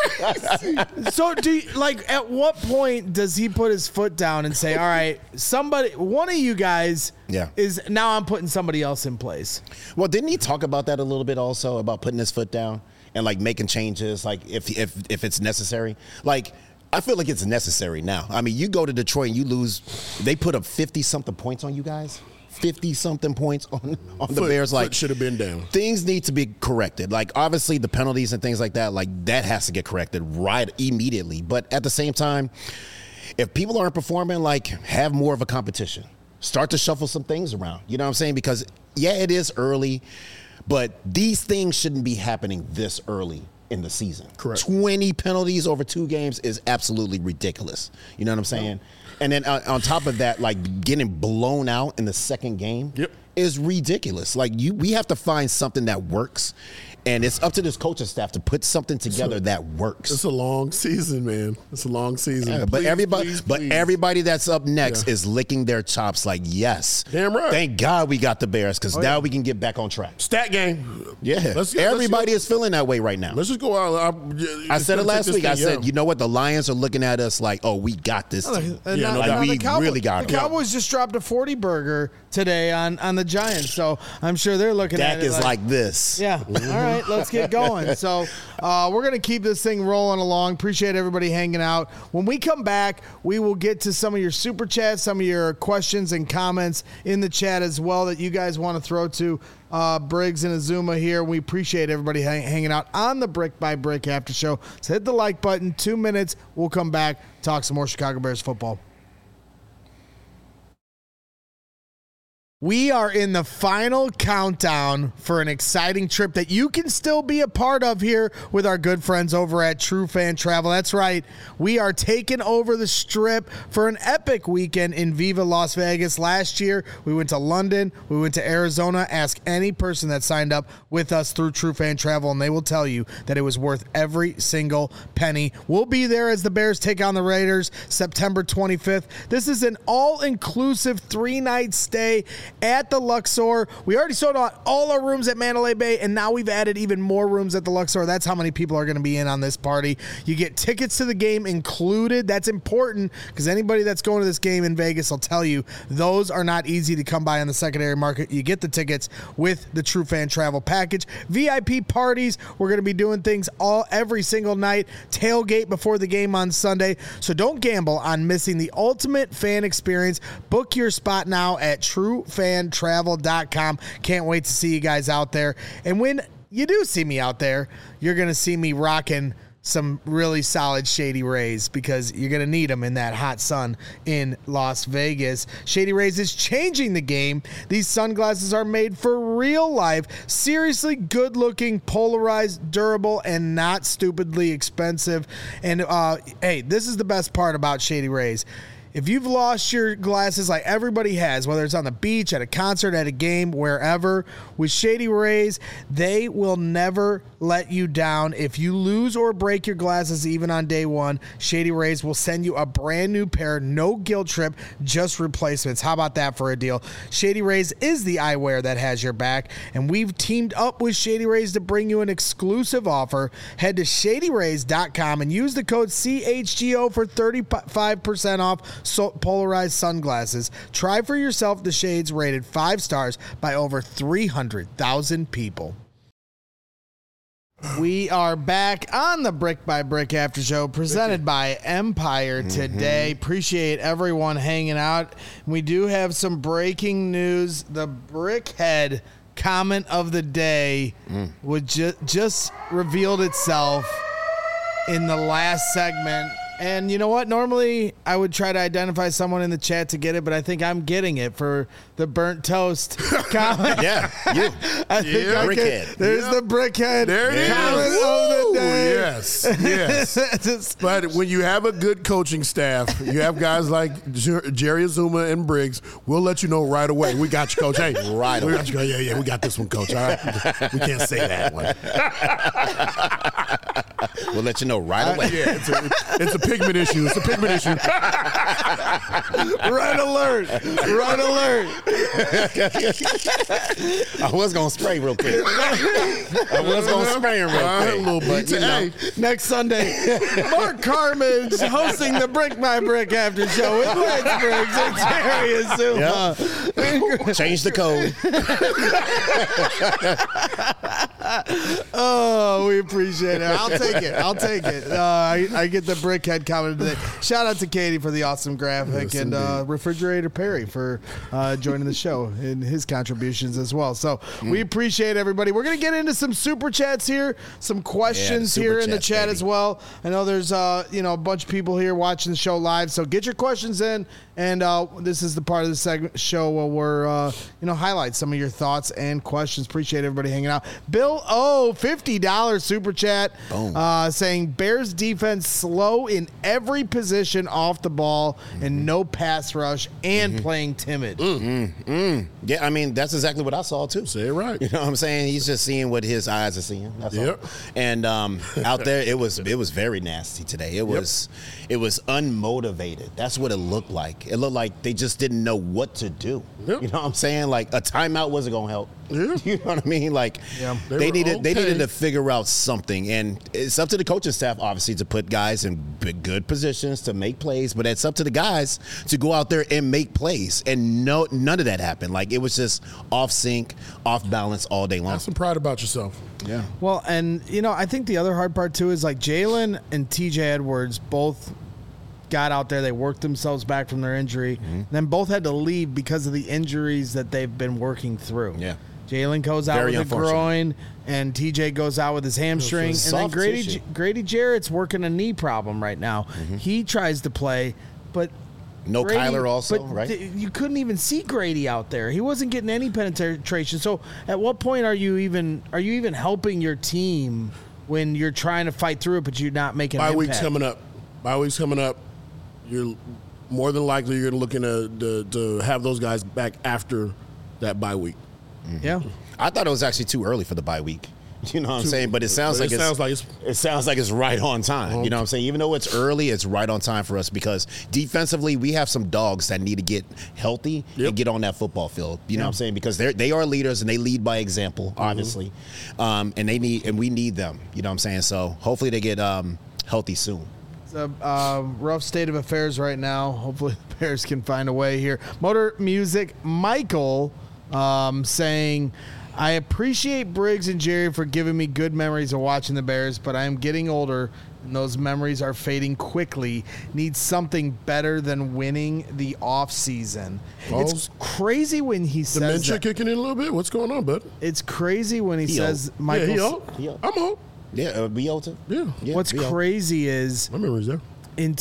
So at what point does he put his foot down and say, all right, one of you guys is now I'm putting somebody else in place? Well, didn't he talk about that a little bit also, about putting his foot down and like making changes, like if it's necessary? Like, I feel like it's necessary now. I mean, you go to Detroit and you lose, they put up 50-something points on you guys. 50-something points on the Bears. Like, should have been down. Things need to be corrected. Like, obviously, the penalties and things like that, like, that has to get corrected right immediately. But at the same time, if people aren't performing, like, have more of a competition. Start to shuffle some things around. You know what I'm saying? Because, yeah, it is early, but these things shouldn't be happening this early in the season. Correct. 20 penalties over 2 games is absolutely ridiculous. You know what I'm saying? And then on top of that, like, getting blown out in the second game is ridiculous. Like, we have to find something that works. And it's up to this coaching staff to put something together that works. It's a long season, man. It's a long season. Yeah, but everybody that's up next is licking their chops like, yes. Damn right. Thank God we got the Bears because now we can get back on track. Stat game. Yeah. Everybody is feeling that way right now. Let's just go out. I said it last week. I said, you know what? The Lions are looking at us like, oh, we got this team. We really got it. The Cowboys just dropped a 40 burger today on the Giants. So I'm sure they're looking at it. Dak is like this. Yeah. All right. Let's get going. So we're going to keep this thing rolling along. Appreciate everybody hanging out. When we come back, we will get to some of your super chats, some of your questions and comments in the chat as well that you guys want to throw to Briggs and Azuma here. We appreciate everybody hanging out on the Brick by Brick After Show. So hit the like button. 2 minutes. We'll come back, talk some more Chicago Bears football. We are in the final countdown for an exciting trip that you can still be a part of here with our good friends over at True Fan Travel. That's right. We are taking over the Strip for an epic weekend in Viva Las Vegas. Last year, we went to London. We went to Arizona. Ask any person that signed up with us through True Fan Travel, and they will tell you that it was worth every single penny. We'll be there as the Bears take on the Raiders September 25th. This is an all-inclusive 3-night stay at the Luxor. We already sold out all our rooms at Mandalay Bay, and now we've added even more rooms at the Luxor. That's how many people are going to be in on this party. You get tickets to the game included. That's important because anybody that's going to this game in Vegas will tell you those are not easy to come by on the secondary market. You get the tickets with the True Fan Travel package. VIP parties. We're going to be doing things every single night. Tailgate before the game on Sunday. So don't gamble on missing the ultimate fan experience. Book your spot now at TrueFanTravel.com. Can't wait to see you guys out there. And when you do see me out there, you're going to see me rocking some really solid Shady Rays because you're going to need them in that hot sun in Las Vegas. Shady Rays is changing the game. These sunglasses are made for real life, seriously good-looking, polarized, durable, and not stupidly expensive. And, hey, this is the best part about Shady Rays. If you've lost your glasses like everybody has, whether it's on the beach, at a concert, at a game, wherever, with Shady Rays, they will never let you down. If you lose or break your glasses even on day one, Shady Rays will send you a brand new pair, no guilt trip, just replacements. How about that for a deal? Shady Rays is the eyewear that has your back, and we've teamed up with Shady Rays to bring you an exclusive offer. Head to shadyrays.com and use the code CHGO for 35% off polarized sunglasses. Try for yourself the shades rated 5 stars by over 300,000 people. We are back on the Brick by Brick After Show presented by Empire today. Appreciate everyone hanging out. We do have some breaking news. The Brickhead comment of the day would just revealed itself in the last segment. And you know what? Normally, I would try to identify someone in the chat to get it, but I think I'm getting it for the burnt toast comment. Yeah, you. I think Brickhead. There's the Brickhead There it is. comment of the day. Yes. But when you have a good coaching staff, you have guys like Jerry Azuma and Briggs, we'll let you know right away. We got you, Coach. Hey, Right we away. got you. Yeah, we got this one, Coach. All right. We can't say that one. We'll let you know right away. Yeah, it's a pigment issue. It's a pigment issue. Red alert. Red alert. I was going to spray real quick. I was going to spray him real quick. A little bit. But, you know, Next Sunday, Mark Carmen's hosting the Brick by Brick After Show with Lex Briggs and Jerry Azuma. change the code. Oh, we appreciate it. I'll take it. I get the Brickhead comment today. Shout out to Katie for the awesome graphic, and Refrigerator Perry for joining the show and his contributions as well. So we appreciate everybody. We're going to get into some super chats here, some questions here in the chat as well. I know there's a bunch of people here watching the show live, so get your questions in. And this is the part of the segment show where we're highlight some of your thoughts and questions. Appreciate everybody hanging out. Bill O, $50 super chat, saying Bears defense slow in every position off the ball and no pass rush and playing timid. Yeah, I mean, that's exactly what I saw, too. Say it right. You know what I'm saying? He's just seeing what his eyes are seeing. That's all. And out there, it was very nasty today. It was unmotivated. That's what it looked like. It looked like they just didn't know what to do. You know what I'm saying? Like, a timeout wasn't going to help. You know what I mean? Like, they needed to figure out something. And it's up to the coaching staff, obviously, to put guys in good positions to make plays. But it's up to the guys to go out there and make plays. And none of that happened. Like, it was just off sync, off balance all day long. Have some pride about yourself. Yeah. Well, and, I think the other hard part, too, is like Jalen and TJ Edwards both got out there. They worked themselves back from their injury. Then both had to leave because of the injuries that they've been working through. Yeah. Jalen goes out with a groin, and TJ goes out with his hamstring. And then Grady Jarrett's working a knee problem right now. He tries to play, but no Grady, Kyler also, right? You couldn't even see Grady out there. He wasn't getting any penetration. So at what point are you even helping your team when you're trying to fight through it, but you're not making an impact? Bye week's coming up. You're more than likely you're looking to have those guys back after that bye week. Yeah, I thought it was actually too early for the bye week. You know what I'm saying? But it sounds like it's right on time. You know what I'm saying? Even though it's early, it's right on time for us because defensively we have some dogs that need to get healthy and get on that football field. You know what I'm saying? Because they are leaders and they lead by example, obviously. And we need them. You know what I'm saying? So hopefully they get healthy soon. It's a rough state of affairs right now. Hopefully the Bears can find a way here. Motor Music Michael saying, I appreciate Briggs and Jerry for giving me good memories of watching the Bears, but I am getting older and those memories are fading quickly. Need something better than winning the offseason. It's crazy when he says dementia kicking in a little bit. What's going on, bud? It's crazy when he says, Michael. Yeah, he old. I'm old. Yeah, be old too. Yeah. What's crazy is my memory's there. In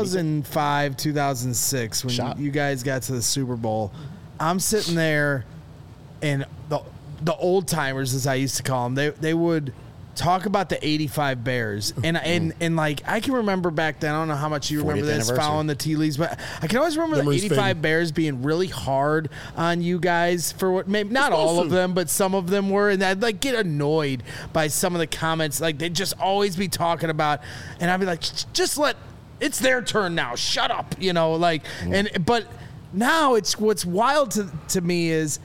2005, 2006, when you guys got to the Super Bowl, I'm sitting there, and the old timers, as I used to call them, they would talk about the 85 Bears. And like, I can remember back then, I don't know how much you remember this, following the tea leagues, but I can always remember the 85 Bears being really hard on you guys for what, maybe not all of them, but some of them were. And I'd like get annoyed by some of the comments. Like, they'd just always be talking about, and I'd be like, just it's their turn now. Shut up. You know, like, but now it's what's wild to me is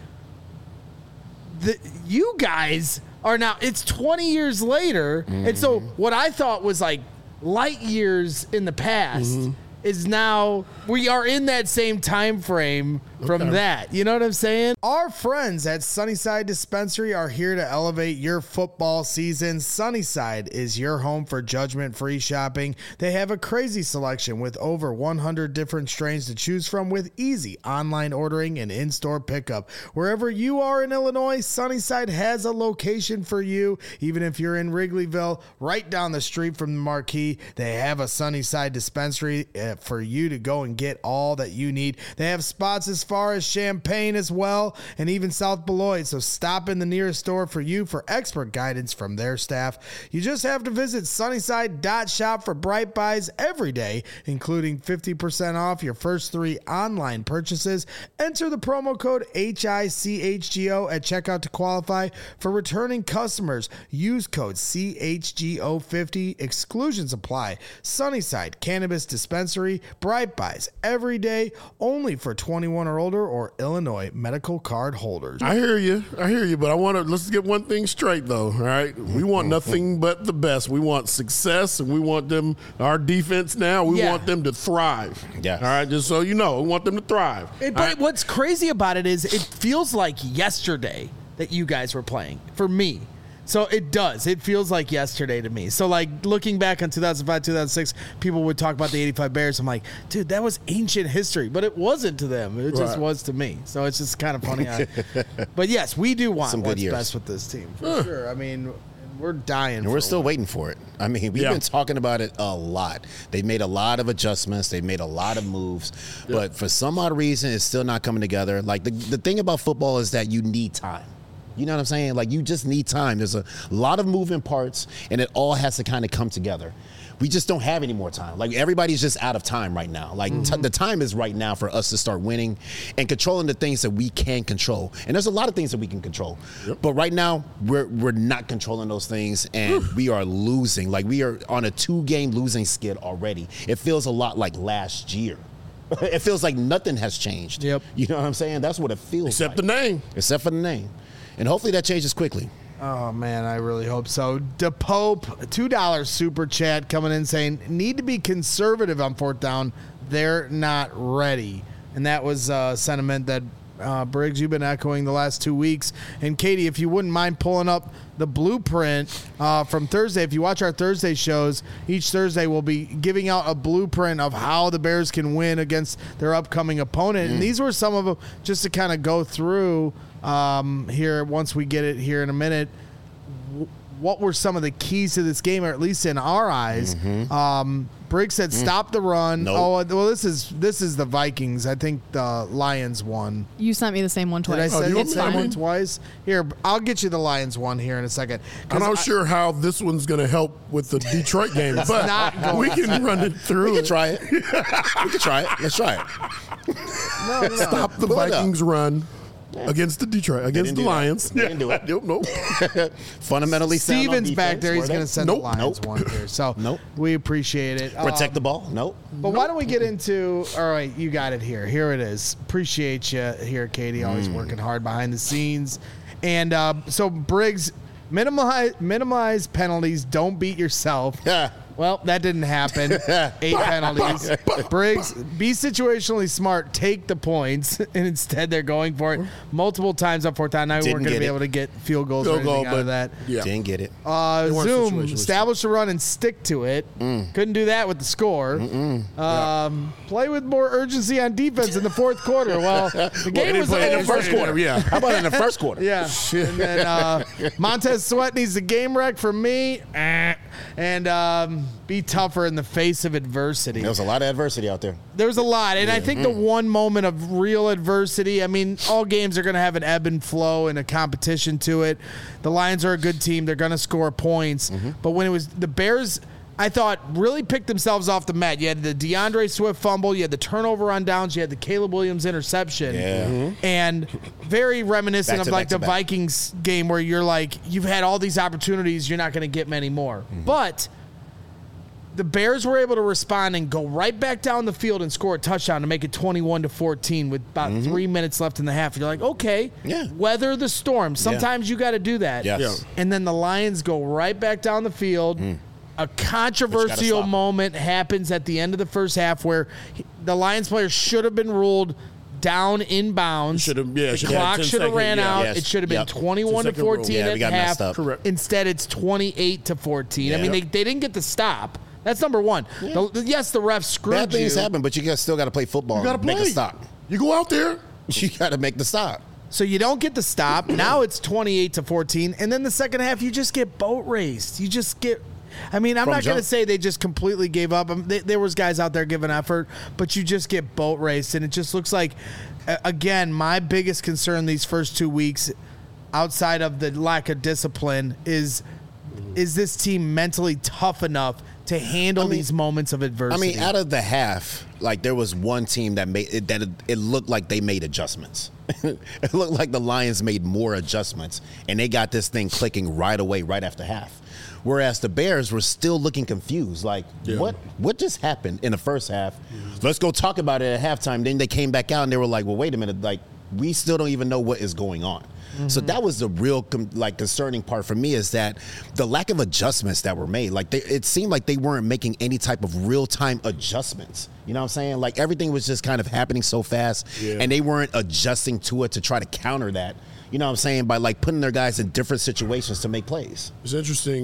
you guys are now, it's 20 years later. And so what I thought was like light years in the past is now we are in that same time frame from that. You know what I'm saying? Our friends at Sunnyside Dispensary are here to elevate your football season. Sunnyside is your home for judgment-free shopping. They have a crazy selection with over 100 different strains to choose from with easy online ordering and in-store pickup. Wherever you are in Illinois, Sunnyside has a location for you. Even if you're in Wrigleyville, right down the street from the Marquee, they have a Sunnyside Dispensary for you to go and get all that you need. They have spots as far as Champaign as well, and even South Beloit. So stop in the nearest store for you for expert guidance from their staff. You just have to visit sunnyside.shop for Bright Buys every day, including 50% off your first 3 online purchases. Enter the promo code HICHGO at checkout to qualify. For returning customers, use code CHGO50. Exclusions apply. Sunnyside Cannabis Dispensary, Bright Buys every day, only for 21 or older or Illinois medical card holders. I hear you, but let's get one thing straight though, all right? We want nothing but the best. We want success, and we want our defense now, we want them to thrive. Yes. All right, just so you know, we want them to thrive. But what's crazy about it is it feels like yesterday that you guys were playing, for me. So it does. It feels like yesterday to me. So, like, looking back on 2005, 2006, people would talk about the 85 Bears. I'm like, dude, that was ancient history. But it wasn't to them. It just was to me. So it's just kind of funny. But, yes, we do want what's best with this team. For sure. I mean, we're dying. And we're still waiting for it. I mean, we've been talking about it a lot. They've made a lot of adjustments. They've made a lot of moves. But for some odd reason, it's still not coming together. Like, the thing about football is that you need time. You know what I'm saying? Like, you just need time. There's a lot of moving parts, and it all has to kind of come together. We just don't have any more time. Like, everybody's just out of time right now. Like, the time is right now for us to start winning and controlling the things that we can control. And there's a lot of things that we can control. But right now, we're not controlling those things, and we are losing. Like, we are on a 2-game losing skid already. It feels a lot like last year. It feels like nothing has changed. You know what I'm saying? That's what it feels Except the name. Except for the name. And hopefully that changes quickly. Oh, man, I really hope so. DePope, $2 super chat coming in saying, need to be conservative on 4th down. They're not ready. And that was sentiment that, Briggs, you've been echoing the last 2 weeks. And, Katie, if you wouldn't mind pulling up the blueprint from Thursday. If you watch our Thursday shows, each Thursday we'll be giving out a blueprint of how the Bears can win against their upcoming opponent. And these were some of them just to kind of go through here once we get it here in a minute. What were some of the keys to this game, or at least in our eyes? Briggs said, "Stop the run." Nope. Oh, well, this is the Vikings. I think the Lions won. You sent me the same one twice. Did I send the same one twice? Here, I'll get you the Lions one here in a second. I'm not sure how this one's going to help with the Detroit game, but we can run it through. We can try it. We can try it. Let's try it. No. Stop the Vikings run. Against the Lions. They didn't do it. Nope. Fundamentally sound on Steven's defense. back there. He's going to send the Lions one here. So we appreciate it. Protect the ball. But why don't we get into, all right, you got it here. Here it is. Appreciate you here, Katie. Always working hard behind the scenes. And so, Briggs, minimize penalties. Don't beat yourself. Well, that didn't happen. 8 penalties. Briggs, be situationally smart. Take the points. And instead, they're going for it multiple times on 4th down. Now we weren't going to be able to get field goals or anything out of that. Didn't get it. Zoom, establish the run and stick to it. Couldn't do that with the score. Play with more urgency on defense in the 4th quarter. Well, the game was over. In the first quarter. Yeah. How about in the first quarter? Yeah. And then Montez Sweat needs the game wreck from me. And be tougher in the face of adversity. There was a lot of adversity out there. There was a lot, and I think the one moment of real adversity, I mean, all games are going to have an ebb and flow and a competition to it. The Lions are a good team. They're going to score points. But when it was the Bears, I thought, really picked themselves off the mat. You had the DeAndre Swift fumble. You had the turnover on downs. You had the Caleb Williams interception. Yeah. And very reminiscent of like the Vikings game where you're like, you've had all these opportunities. You're not going to get many more. But the Bears were able to respond and go right back down the field and score a touchdown to make it 21-14 with about 3 minutes left in the half. You're like, okay, weather the storm. Sometimes you got to do that. Yes. And then the Lions go right back down the field. A controversial moment happens at the end of the first half where the Lions players should have been ruled down in bounds. The clock should have ran out. It should have been 21-14 at half. Correct. Instead, it's 28-14. I mean, they didn't get the stop. That's number one. Yes, the refs screwed you. Bad things happen, but you still got to play football. You got to make a stop. You go out there. You got to make the stop. So you don't get the stop. Now it's 28-14, and then the second half you just get boat raced. You just get. I mean, I'm not going to say they just completely gave up. There was guys out there giving effort, but you just get boat raced, and it just looks like, again, my biggest concern these first 2 weeks, outside of the lack of discipline, is this team mentally tough enough to handle these moments of adversity? I mean, out of the half, like there was one team that made it looked like they made adjustments. It looked like the Lions made more adjustments, and they got this thing clicking right away, right after half. Whereas the Bears were still looking confused, like, what just happened in the first half? Let's go talk about it at halftime. Then they came back out and they were like, well, wait a minute, like, we still don't even know what is going on. So that was the real concerning part for me, is that the lack of adjustments that were made. Like it seemed like they weren't making any type of real-time adjustments. You know what I'm saying? Like everything was just kind of happening so fast, and they weren't adjusting to it to try to counter that. You know what I'm saying? By like putting their guys in different situations to make plays. It's interesting.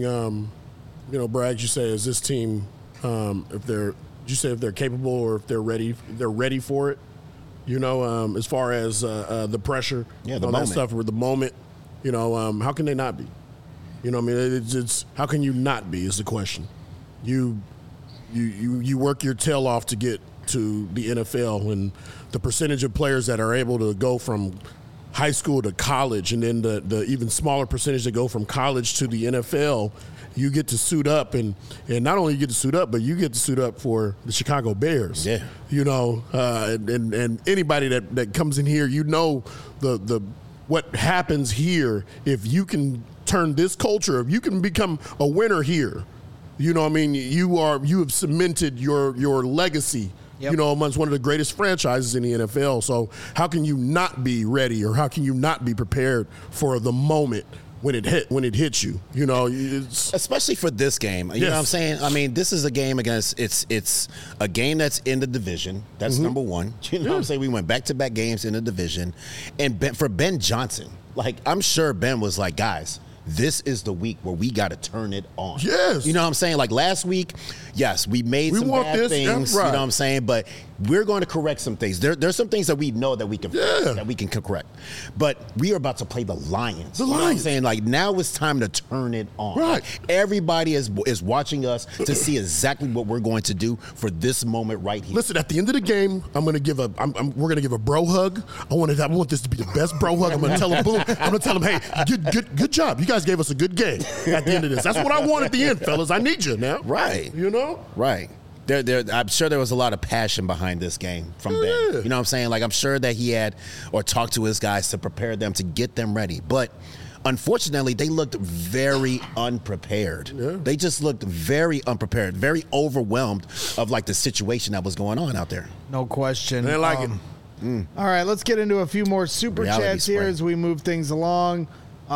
Bragg, you say, is this team, if they're capable or if they're ready for it? You know, as far as the pressure, that stuff, or the moment, you know, how can they not be? You know, I mean, it's how can you not be is the question. You work your tail off to get to the NFL, and the percentage of players that are able to go from high school to college, and then the even smaller percentage that go from college to the NFL. You get to suit up, and not only you get to suit up, but you get to suit up for the Chicago Bears. Yeah, you know, and anybody that comes in here, you know, the what happens here if you can turn this culture, if you can become a winner here. You know what I mean? You have cemented your legacy. Yep. You know, amongst one of the greatest franchises in the NFL. So how can you not be ready, or how can you not be prepared for the moment when it hits you? You know, especially for this game. You know what I'm saying? I mean, this is a game against it's a game that's in the division. That's number one. You know what I'm saying? We went back-to-back games in the division. And for Ben Johnson, like, I'm sure Ben was like, guys, this is the week where we got to turn it on. Yes. You know what I'm saying? Like last week, yes, we made some bad things. Right. You know what I'm saying? But we're going to correct some things. There's some things that we know that we can correct. But we are about to play the Lions. You know what I'm saying? Like now it's time to turn it on. Right. Like, everybody is watching us to see exactly what we're going to do for this moment right here. Listen, at the end of the game, we're going to give a bro hug. I want this to be the best bro hug. I'm going to tell him, boom. I'm going to tell him, hey, good job. You guys gave us a good game at the end of this. That's what I want at the end, fellas. I need you now. Right. You know? Right. I'm sure there was a lot of passion behind this game from Ben. You know what I'm saying? Like, I'm sure that he had or talked to his guys to prepare them, to get them ready. But unfortunately, they looked very unprepared. Yeah. They just looked very unprepared, very overwhelmed of, like, the situation that was going on out there. No question. They like it. All right, let's get into a few more super chats here as we move things along.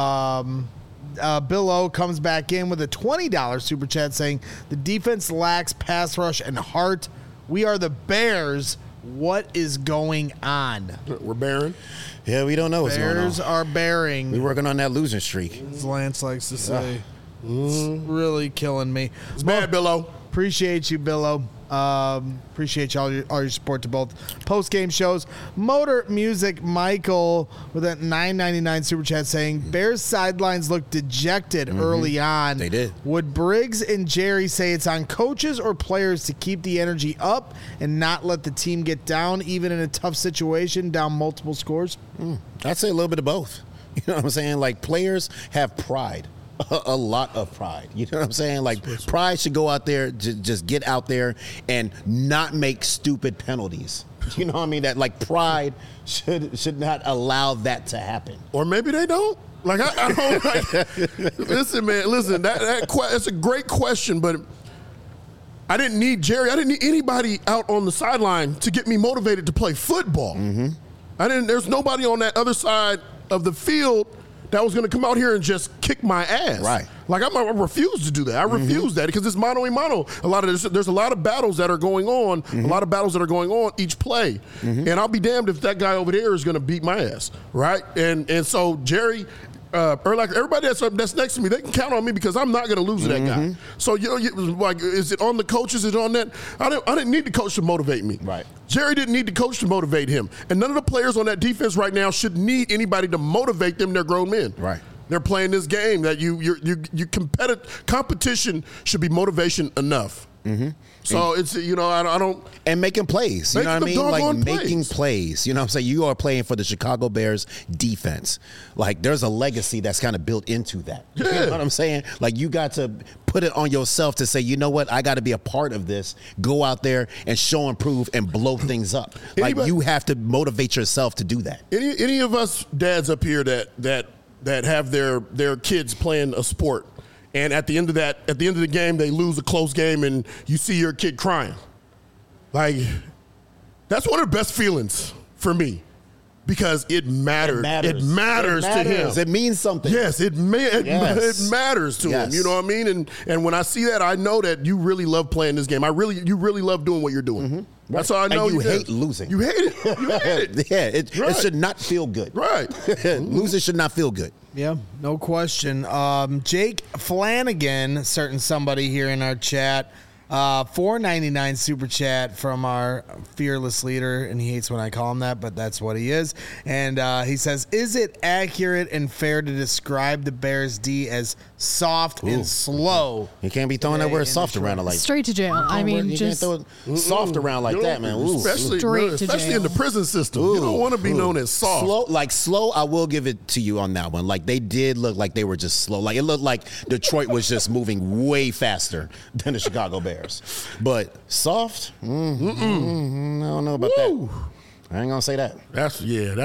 Bill O comes back in with a $20 super chat saying, the defense lacks pass rush and heart. We are the Bears. What is going on? We're bearing. Yeah, we don't know what's going on. Bears are bearing. We're working on that losing streak. As Lance likes to say. It's really killing me. It's bad, Bill O. Appreciate you, Billo. Appreciate all your support to both post-game shows. Motor Music Michael with that $9.99 super chat saying, Bears sidelines look dejected early on. They did. Would Briggs and Jerry say it's on coaches or players to keep the energy up and not let the team get down, even in a tough situation, down multiple scores? I'd say a little bit of both. You know what I'm saying? Like, players have pride. A lot of pride. You know what I'm saying? Like, pride should go out there, just get out there and not make stupid penalties. You know what I mean? That, like, pride should not allow that to happen. Or maybe they don't. Like, I don't like. Listen, man. Listen, that's a great question, but I didn't need Jerry. I didn't need anybody out on the sideline to get me motivated to play football. There's nobody on that other side of the field that was going to come out here and just kick my ass. Right. Like, I refuse to do that. I refuse that because it's mano a mano. There's a lot of battles that are going on, a lot of battles that are going on each play. And I'll be damned if that guy over there is going to beat my ass, right? And so Jerry, or like everybody that's next to me, they can count on me because I'm not going to lose to that guy. So, like, is it on the coaches? Is it on that? I didn't need the coach to motivate me. Right. Jerry didn't need the coach to motivate him. And none of the players on that defense right now should need anybody to motivate them. They're grown men. Right. They're playing this game that competition should be motivation enough. So it's, I don't. And making plays. You know what I mean? Like, making plays. plays. You know what I'm saying? You are playing for the Chicago Bears defense. Like, there's a legacy that's kind of built into that. You know what I'm saying? Like, you got to put it on yourself to say, you know what? I got to be a part of this. Go out there and show and prove and blow things up. Like, you have to motivate yourself to do that. Any of us dads up here that have their kids playing a sport, and at the end of the game, they lose a close game, and you see your kid crying. Like, that's one of the best feelings for me because it matters. It matters to him. It means something. Yes, it matters to him. You know what I mean? And when I see that, I know that you really love playing this game. You really love doing what you're doing. That's all I know. And you hate losing. You hate it. You hate it. Yeah, it should not feel good. Right. Losing should not feel good. Yeah, no question. Jake Flanagan, certain somebody here in our chat, $4.99 super chat from our fearless leader, and he hates when I call him that, but that's what he is. And he says, is it accurate and fair to describe the Bears D as soft and slow? You can't be throwing that word soft around like straight to jail. I mean, just can't throw soft around like that, man. Especially in the prison system. You don't want to be known as soft. Slow, I will give it to you on that one. Like, they did look like they were just slow. Like, it looked like Detroit was just moving way faster than the Chicago Bears. But soft? I don't know about that. I ain't gonna say that. That's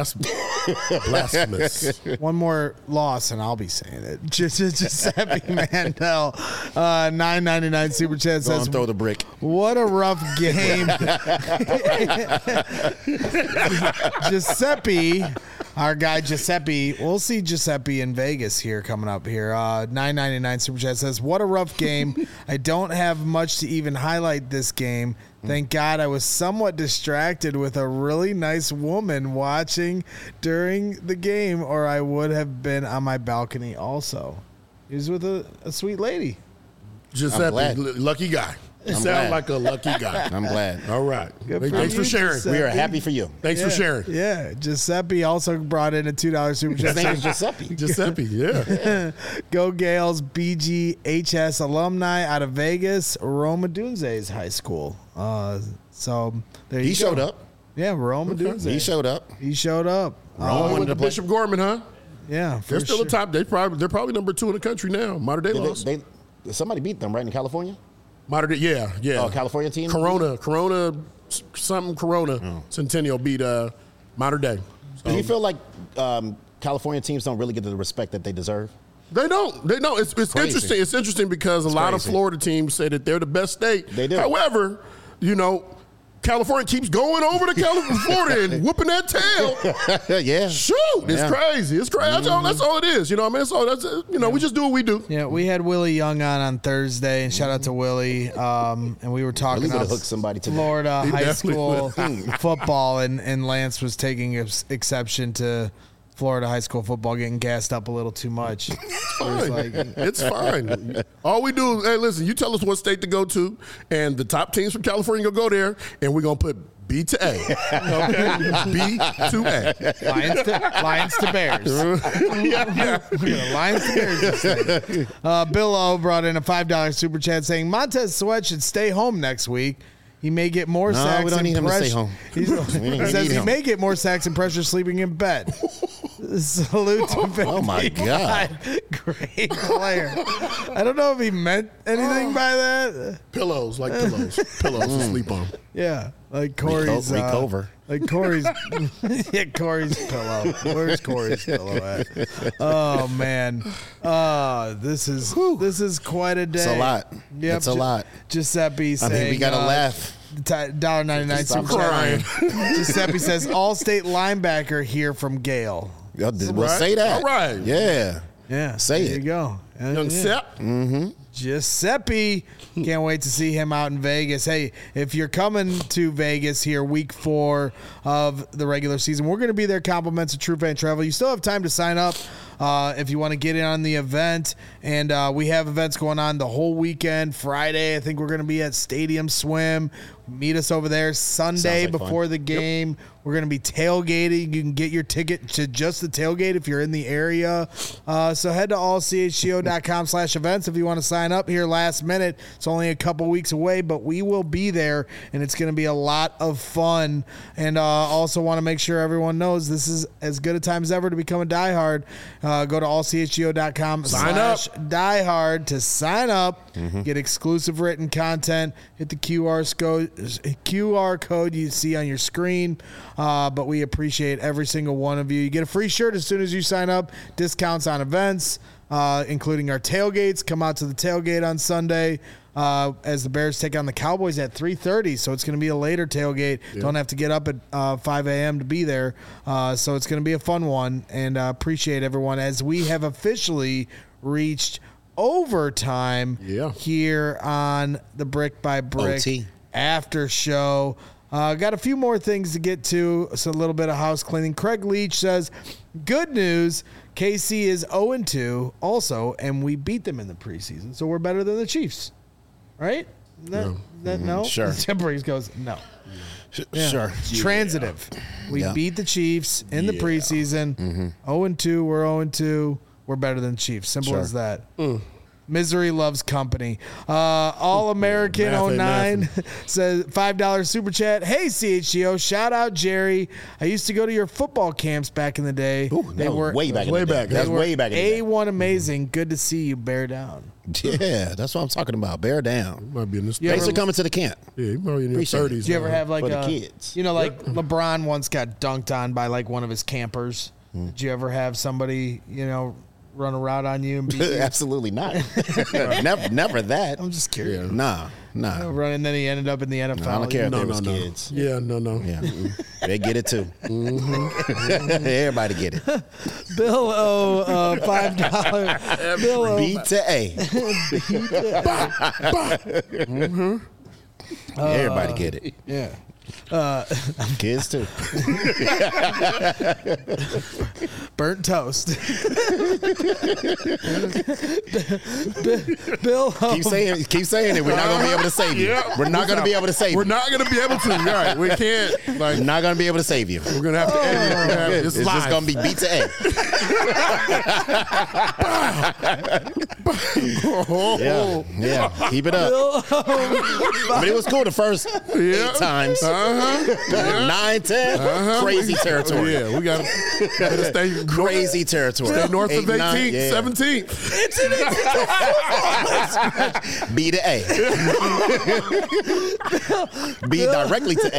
blasphemous. One more loss, and I'll be saying it. Giuseppe Mandel, $9.99 super chat says, throw the brick. What a rough game. Giuseppe, our guy Giuseppe, we'll see Giuseppe in Vegas here coming up here. $9.99 super chat says, what a rough game. I don't have much to even highlight this game. Thank God I was somewhat distracted with a really nice woman watching during the game, or I would have been on my balcony also. He was with a sweet lady. Giuseppe, lucky guy. You sound like a lucky guy. I'm glad. All right. Good Thanks for sharing. Giuseppe. We are happy for you. Thanks for sharing. Yeah. Giuseppe also brought in a $2 super chat. His name is Giuseppe. Giuseppe, yeah. Go Gales, BGHS alumni out of Vegas, Roma Dunze's high school. So there you go. He showed up. Yeah, Roma Dunze. He showed up. He showed up. Roma went to Bishop Gorman, huh? Yeah, they're still sure. the top. They're probably number 2 in the country now. Modern day lost. Somebody beat them, right, in California? Modern day, yeah. Oh, California team? Corona, Centennial beat Modern Day. So. Do you feel like California teams don't really get the respect that they deserve? They don't. It's interesting. It's interesting because a lot of Florida teams say that they're the best state. They do. However, California keeps going over to Florida and whooping that tail. Yeah. Shoot. It's crazy. It's crazy. That's all it is. You know what I mean? So that's we just do what we do. Yeah, we had Willie Young on Thursday, and shout out to Willie. And we were talking about Florida high school football, and Lance was taking exception to Florida high school football getting gassed up a little too much. It's fine. All we do is, hey, listen, you tell us what state to go to, and the top teams from California will go there, and we're going to put B to A. Okay? B to A. Lions to Bears. Lions to Bears this thing. Bill O brought in a $5 super chat saying Montez Sweat should stay home next week. He may get more sacks. We don't need him to stay home. He says he may get more sacks and pressure sleeping in bed. Salute to Vinny. Oh my God. Great player. I don't know if he meant anything by that. Pillows to sleep on. Yeah, like Corey's. Recover. Like Corey's. Yeah, Corey's pillow. Where's Corey's pillow at? Oh man. This is quite a day. It's a lot. Yep, It's a lot. Giuseppe saying. I mean, we got to laugh. $1.99 Stop super crying. chat. Giuseppe says All-State linebacker here from Gale. Well, Right. say that. All right. Yeah. Yeah, Say there it. you go. Young Sep. Giuseppe. Can't wait to see him out in Vegas. Hey, if you're coming to Vegas here week 4 of the regular season, we're going to be there, compliments of True Fan Travel. You still have time to sign up if you want to get in on the event. And we have events going on the whole weekend. Friday, I think we're going to be at Stadium Swim. Meet us over there. Sunday before the game, we're going to be tailgating. You can get your ticket to just the tailgate if you're in the area. So head to allchgo.com/events if you want to sign up here last minute. It's only a couple weeks away, but we will be there, and it's going to be a lot of fun. And also want to make sure everyone knows this is as good a time as ever to become a diehard. Go to allchgo.com/diehard to sign up, get exclusive written content, hit the QR code you see on your screen. But we appreciate every single one of you. You get a free shirt as soon as you sign up, discounts on events, including our tailgates. Come out to the tailgate on Sunday as the Bears take on the Cowboys at 3:30. So it's going to be a later tailgate. Yeah. Don't have to get up at 5 a.m. to be there. So it's going to be a fun one, and appreciate everyone as we have officially reached overtime here on the Brick by Brick OT. After show. Got a few more things to get to, so a little bit of house cleaning. Craig Leach says, good news, KC is 0-2 also, and we beat them in the preseason, so we're better than the Chiefs. Right? No? Sure. Temporary goes, no. Yeah. Sure. Transitive. We beat the Chiefs in the preseason. 0-2, we're 0-2. We're better than the Chiefs. Simple as that. Misery loves company. All American 09 says $5 super chat. Hey CHGO, shout out Jerry. I used to go to your football camps back in the day. They were way back in the day. That's way back in the day. A1 amazing. Good to see you. Bear down. Yeah, that's what I'm talking about. Bear down. Might be in this. Thanks for coming to the camp. Yeah, you might be in your 30s. Did you ever have like the kids? You know, like LeBron once got dunked on by like one of his campers. Did you ever have somebody, run a route on you and beat you? Absolutely not. never that. I'm just curious. Nah. And then he ended up in the NFL. I don't care if they was kids. Yeah, no. Yeah, they get it too. Everybody get it. Bill O, $5. Bill O. B to A. Everybody get it. Yeah. Kids too. Burnt toast. Bill O. Keep saying it. We're not gonna be able to save you. We're not gonna be able to save you. We're not gonna be able to. Right. We can't. We're not gonna be able to save you. We're gonna have to end it. It's just gonna be B to A. Yeah. Keep it up. I mean, it was cool the first 8 times. 9, 10, crazy territory. Yeah, we gotta stay crazy territory. Stay north 8, of 18th, 17th. B to A. B directly to A.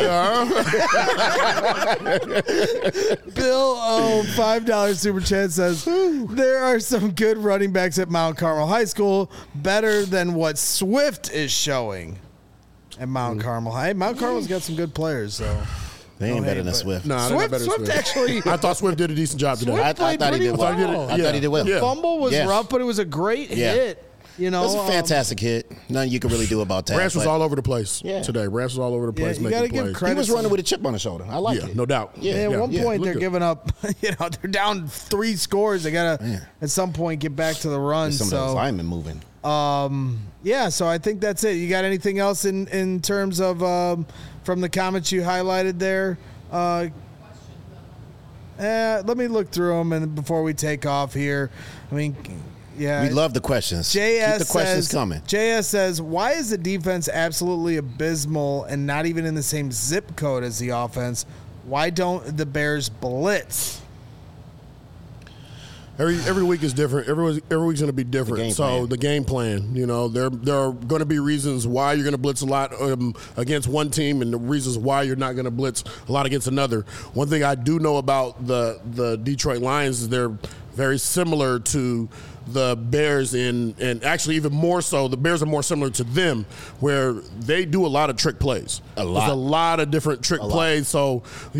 Bill O, $5 super chat says, there are some good running backs at Mount Carmel High School, better than what Swift is showing at Mount Carmel High. Mount Carmel's got some good players, so they ain't better than Swift. No, Swift actually. I thought Swift did a decent job today. I thought he did well. I thought he did well. The fumble was rough, but it was a great hit. You know, That's a fantastic hit. Nothing you can really do about that. Branch was all over the place today. Branch was all over the place you gotta making give plays. credit. He was running with a chip on his shoulder. I like it. No doubt. At one point, they're giving up. They're down 3 scores. They gotta at some point get back to the run. Some of those linemen moving. So I think that's it. You got anything else in terms of from the comments you highlighted there? Let me look through them and before we take off here. I mean, yeah, we love the questions. JS Keep the questions coming. JS says, why is the defense absolutely abysmal and not even in the same zip code as the offense? Why don't the Bears blitz? Every week is different. Every week's going to be different. The game plan, there are going to be reasons why you're going to blitz a lot against one team, and the reasons why you're not going to blitz a lot against another. One thing I do know about the Detroit Lions is they're very similar to the Bears and actually even more so, the Bears are more similar to them, where they do a lot of trick plays. There's a lot of different trick plays. So,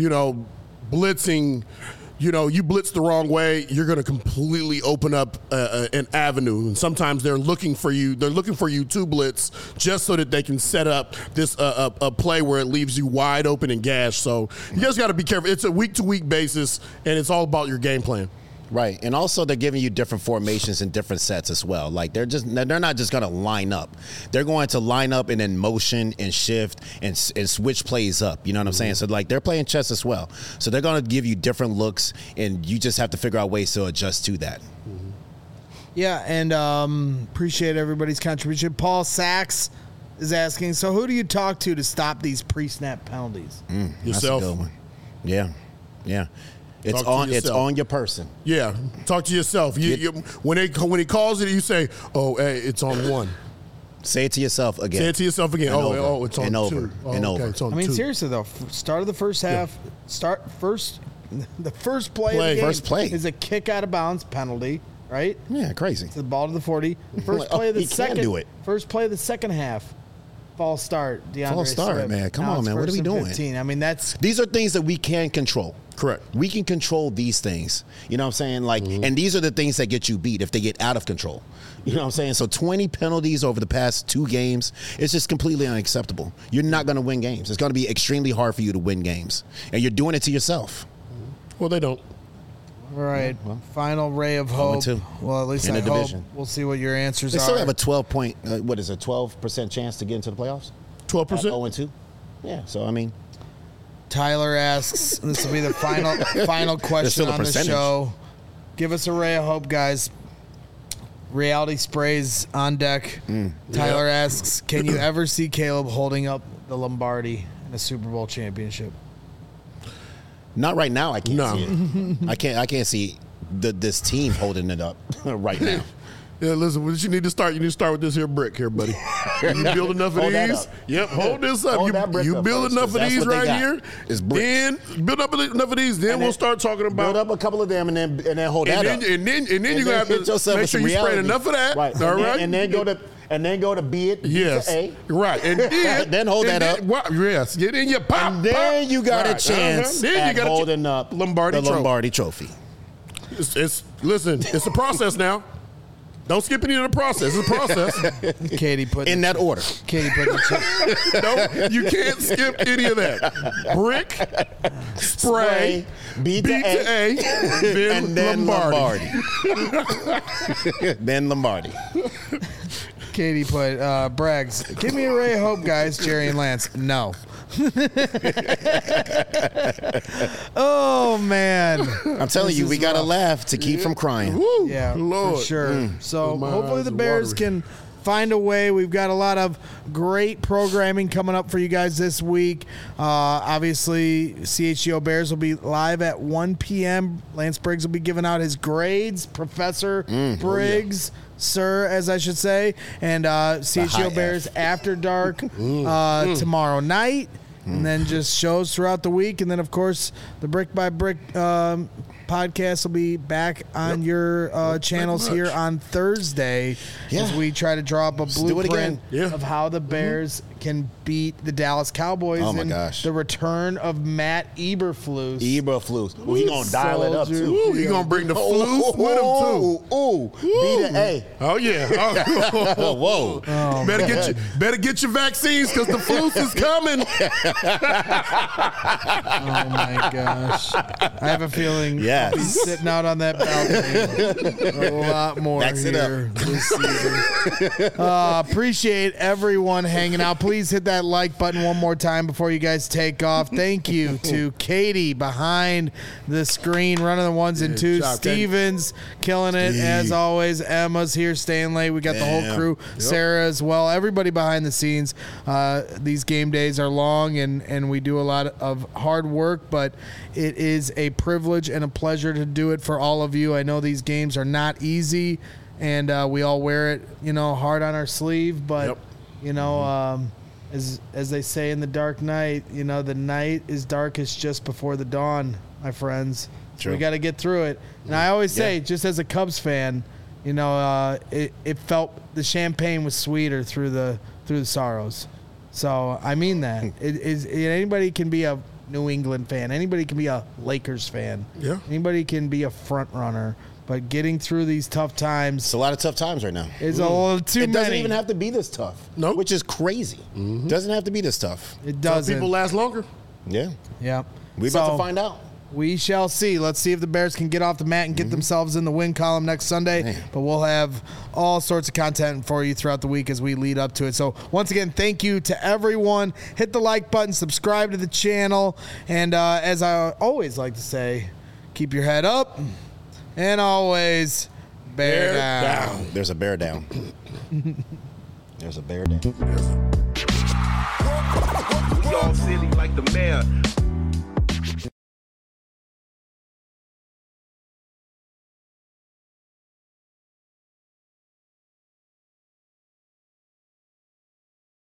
blitzing. You blitz the wrong way, you're going to completely open up an avenue. And sometimes they're looking for you. They're looking for you to blitz just so that they can set up this a play where it leaves you wide open and gashed. So you guys got to be careful. It's a week-to-week basis, and it's all about your game plan. Right, and also they're giving you different formations and different sets as well. Like they're not just going to line up. They're going to line up and then motion and shift and switch plays up. You know what I'm saying? So like they're playing chess as well. So they're going to give you different looks, and you just have to figure out ways to adjust to that. Yeah, and appreciate everybody's contribution. Paul Sachs is asking, so who do you talk to stop these pre-snap penalties? Yourself. That's a good one. Yeah. It's on your person. Yeah, talk to yourself. When he calls it, you say, "Oh, hey, it's on 1." Say it to yourself again. Say it to yourself again. It's on 2. It's on 2. Seriously though, start of the first half. The first play of the game first play is a kick out of bounds penalty, right? Yeah, crazy. It's the ball to the 40. First play of the second. Can't do it. First play of the second half. False start. False start, Swift. man. Come on, man. What are we doing? 15. I mean, these are things that we can control. Correct. We can control these things. You know what I'm saying? Like, and these are the things that get you beat if they get out of control. You know what I'm saying? So 20 penalties over the past 2 games, it's just completely unacceptable. You're not going to win games. It's going to be extremely hard for you to win games. And you're doing it to yourself. Well, they don't. All right. Final ray of hope. Well, at least I hope. Division. We'll see what your answers are. They still have a 12% chance to get into the playoffs? 12%? 0-2? Yeah, so I mean. Tyler asks, this will be the final question on the show. Give us a ray of hope, guys. Reality sprays on deck. Tyler asks, can you ever see Caleb holding up the Lombardi in a Super Bowl championship? Not right now. I can't see it. I can't see this team holding it up right now. Yeah, listen, what you need to start with this here brick here, buddy. You build enough of these. Yep, hold this up. You build enough of these right here. Then build up enough of these. Then we'll start talking about build up a couple of them and then hold that up. And then you're gonna have to make sure you spray enough of that. Right. All right. And then go to B it. Yes. To A. Right. And then then hold that up. Yes. And then you pop. And then you got a chance at holding up the Lombardi Trophy. Listen, it's a process now. Don't skip any of the process. It's a process. Katie put in that order. Katie put the No, you can't skip any of that. Brick, spray, B to A, then Lombardi. Then Lombardi. Katie put Braggs. Give me a ray of hope, guys. Jerry and Lance. No. Oh man! I'm telling you, we gotta laugh to keep from crying. Woo, yeah, Lord. for sure. So hopefully the Bears can find a way. We've got a lot of great programming coming up for you guys this week. Obviously, CHGO Bears will be live at 1 p.m. Lance Briggs will be giving out his grades. Professor Briggs. Sir, as I should say, and CHGO Bears After Dark tomorrow night, and then just shows throughout the week, and then of course the Brick by Brick podcast will be back on your channels here on Thursday as we try to draw up a blueprint of how the Bears can beat the Dallas Cowboys. Oh, my in gosh. The return of Matt Eberflus. Well, he gonna dial it up, too. Ooh, he gonna bring the flus with him, too. Ooh. B to A. Oh, yeah. Oh. Whoa. Oh, better get your vaccines because the flus is coming. Oh, my gosh. I have a feeling Yes. I'll be sitting out on that balcony a lot more Backs it here up. this season. Appreciate everyone hanging out. Please hit that like button one more time before you guys take off. Thank you to Katie behind the screen, running the ones and twos. job, Katie. Stevens killing it as always. Emma's here staying late. We got the whole crew. Yep. Sarah as well. Everybody behind the scenes. These game days are long and we do a lot of hard work, but it is a privilege and a pleasure to do it for all of you. I know these games are not easy, and we all wear it, hard on our sleeve. But as they say in The Dark Knight, the night is darkest just before the dawn, my friends. So we got to get through it. And I always say, just as a Cubs fan, it felt the champagne was sweeter through the sorrows. So I mean that anybody can be a New England fan. Anybody can be a Lakers fan. Yeah. Anybody can be a front runner. But getting through these tough times, It's a lot of tough times right now. is a little too many. It doesn't even have to be this tough. Nope. Which is crazy. Doesn't have to be this tough. It Some doesn't. people last longer. Yeah. Yeah. We're about to find out. We shall see. Let's see if the Bears can get off the mat and get themselves in the win column next Sunday. Man. But we'll have all sorts of content for you throughout the week as we lead up to it. So once again, thank you to everyone. Hit the like button, subscribe to the channel, and as I always like to say, keep your head up and always bear down. There's a bear down. There's a bear down. We all silly like the mayor.